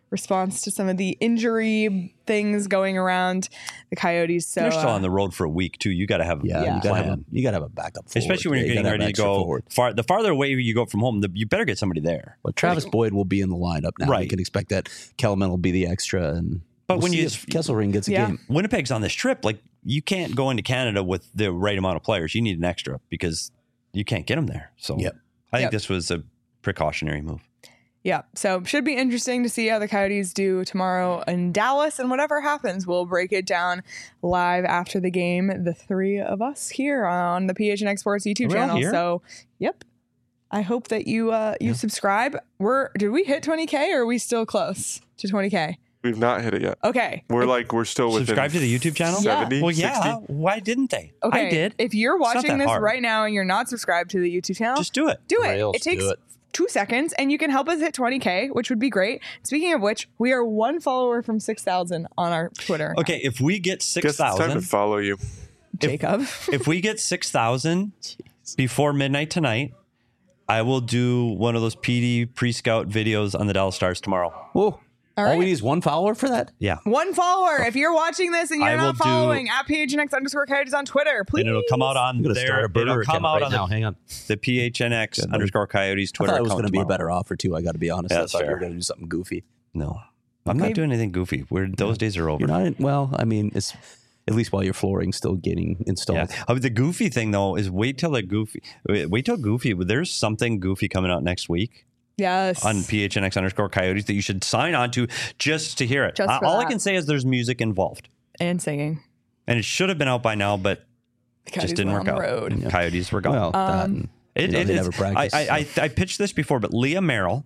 response to some of the injury things going around the Coyotes. So They're still uh, on the road for a week too. You got to have Yeah, Yeah. you gotta have a, plan. you gotta have a backup, forward. Especially when Yeah, you're you getting gotta have ready to extra go forward. far. The farther away you go from home, the, you better get somebody there. But Travis Boyd will be in the lineup now. Right. You can expect that. Kelman will be the extra, and But we'll when see you- if Kesselring gets a Yeah. game. Winnipeg's on this trip. Like you can't go into Canada with the right amount of players. You need an extra because you can't get them there. So Yep. I think Yep. this was a precautionary move. Yeah, so should be interesting to see how the Coyotes do tomorrow in Dallas, and whatever happens, we'll break it down live after the game. The three of us here on the P H N X Sports YouTube Are we all channel. here? So, yep. I hope that you uh, you subscribe. We're did we hit twenty K or are we still close to twenty K? We've not hit it yet. Okay. We're like we're still within Subscribe to the YouTube channel? Yeah. seventy, Well, yeah. sixty. Why didn't they? Okay. I did. If you're It's not watching that this hard. right now and you're not subscribed to the YouTube channel, Just do it. do it. Rails, it takes do it. two seconds and you can help us hit twenty K, which would be great. Speaking of which, we are one follower from six thousand on our Twitter. Okay, if we get Guess six it's time to thousand, follow you. Jacob. if we get six thousand before midnight tonight, I will do one of those P D pre-scout videos on the Dallas Stars tomorrow. Whoa. All, right. we need is one follower for that? Yeah. One follower. If you're watching this and you're I will not do- following at P H N X underscore Coyotes on Twitter, please. And it'll come out on I'm going to their, start a burner it'll account come out right on now. the, Hang on. the P H N X Good. underscore Coyotes I Twitter thought it was account going to be a tomorrow. better offer, too. I got to be honest. Yeah, I that's thought you were fair. going to do something goofy. No. I'm Okay. not doing anything goofy. We're, those days are over. You're not in, well, I mean, it's at least while your flooring's still getting installed. Yeah. Uh, the goofy thing though is wait till the goofy wait, wait till goofy. There's something goofy coming out next week Yes. on P H N X underscore Coyotes that you should sign on to just to hear it. Just Uh, for all I that. can say is there's music involved, And singing. and it should have been out by now, but The Coyotes just didn't were work on the out. road. Coyotes were gone. Well, that Um, and, It, you know, it- they it's- never practice. I, I, I, I pitched this before, but Leah Merrill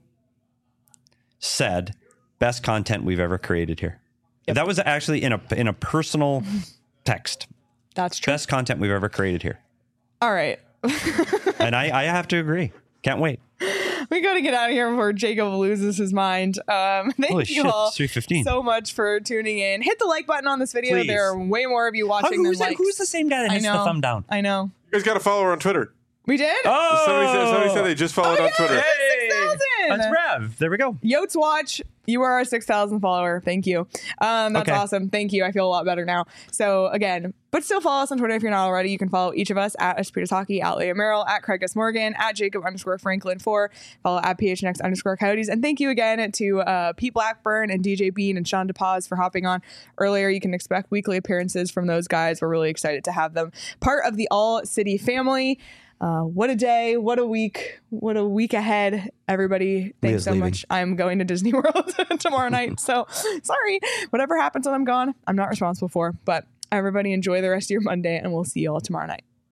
said best content we've ever created here. That was actually in a in a personal text. That's true. Best content we've ever created here, All right. and I, I have to agree. Can't wait. We got to get out of here before Jacob loses his mind. Um, thank Holy you shit, all it's three fifteen. so much for tuning in. Hit the like button on this video. Please. There are way more of you How, watching who's, than that, likes. who's the same guy that I hits the know. thumb down? I know. You guys got to follow her on Twitter. We did? Oh, Somebody said, somebody said they just followed Oh, on yeah. Twitter. Hey, six thousand. that's Rev. There we go. Yotes Watch, you are our six thousand follower. Thank you. Um, that's Okay. awesome. Thank you. I feel a lot better now. So again, but still follow us on Twitter if you're not already. You can follow each of us at Espritas Hockey, at Leah Merrill, at Craig S. Morgan, at Jacob underscore Franklin four. Follow at P H N X underscore Coyotes. And thank you again to uh, Pete Blackburn and D J Bean and Sean DePaz for hopping on earlier. You can expect weekly appearances from those guys. We're really excited to have them part of the All City family. Uh, what a day, what a week, what a week ahead, everybody. Thanks Leah's so leaving. much. I'm going to Disney World tomorrow night. So sorry, whatever happens when I'm gone, I'm not responsible for. But everybody enjoy the rest of your Monday, and we'll see you all tomorrow night.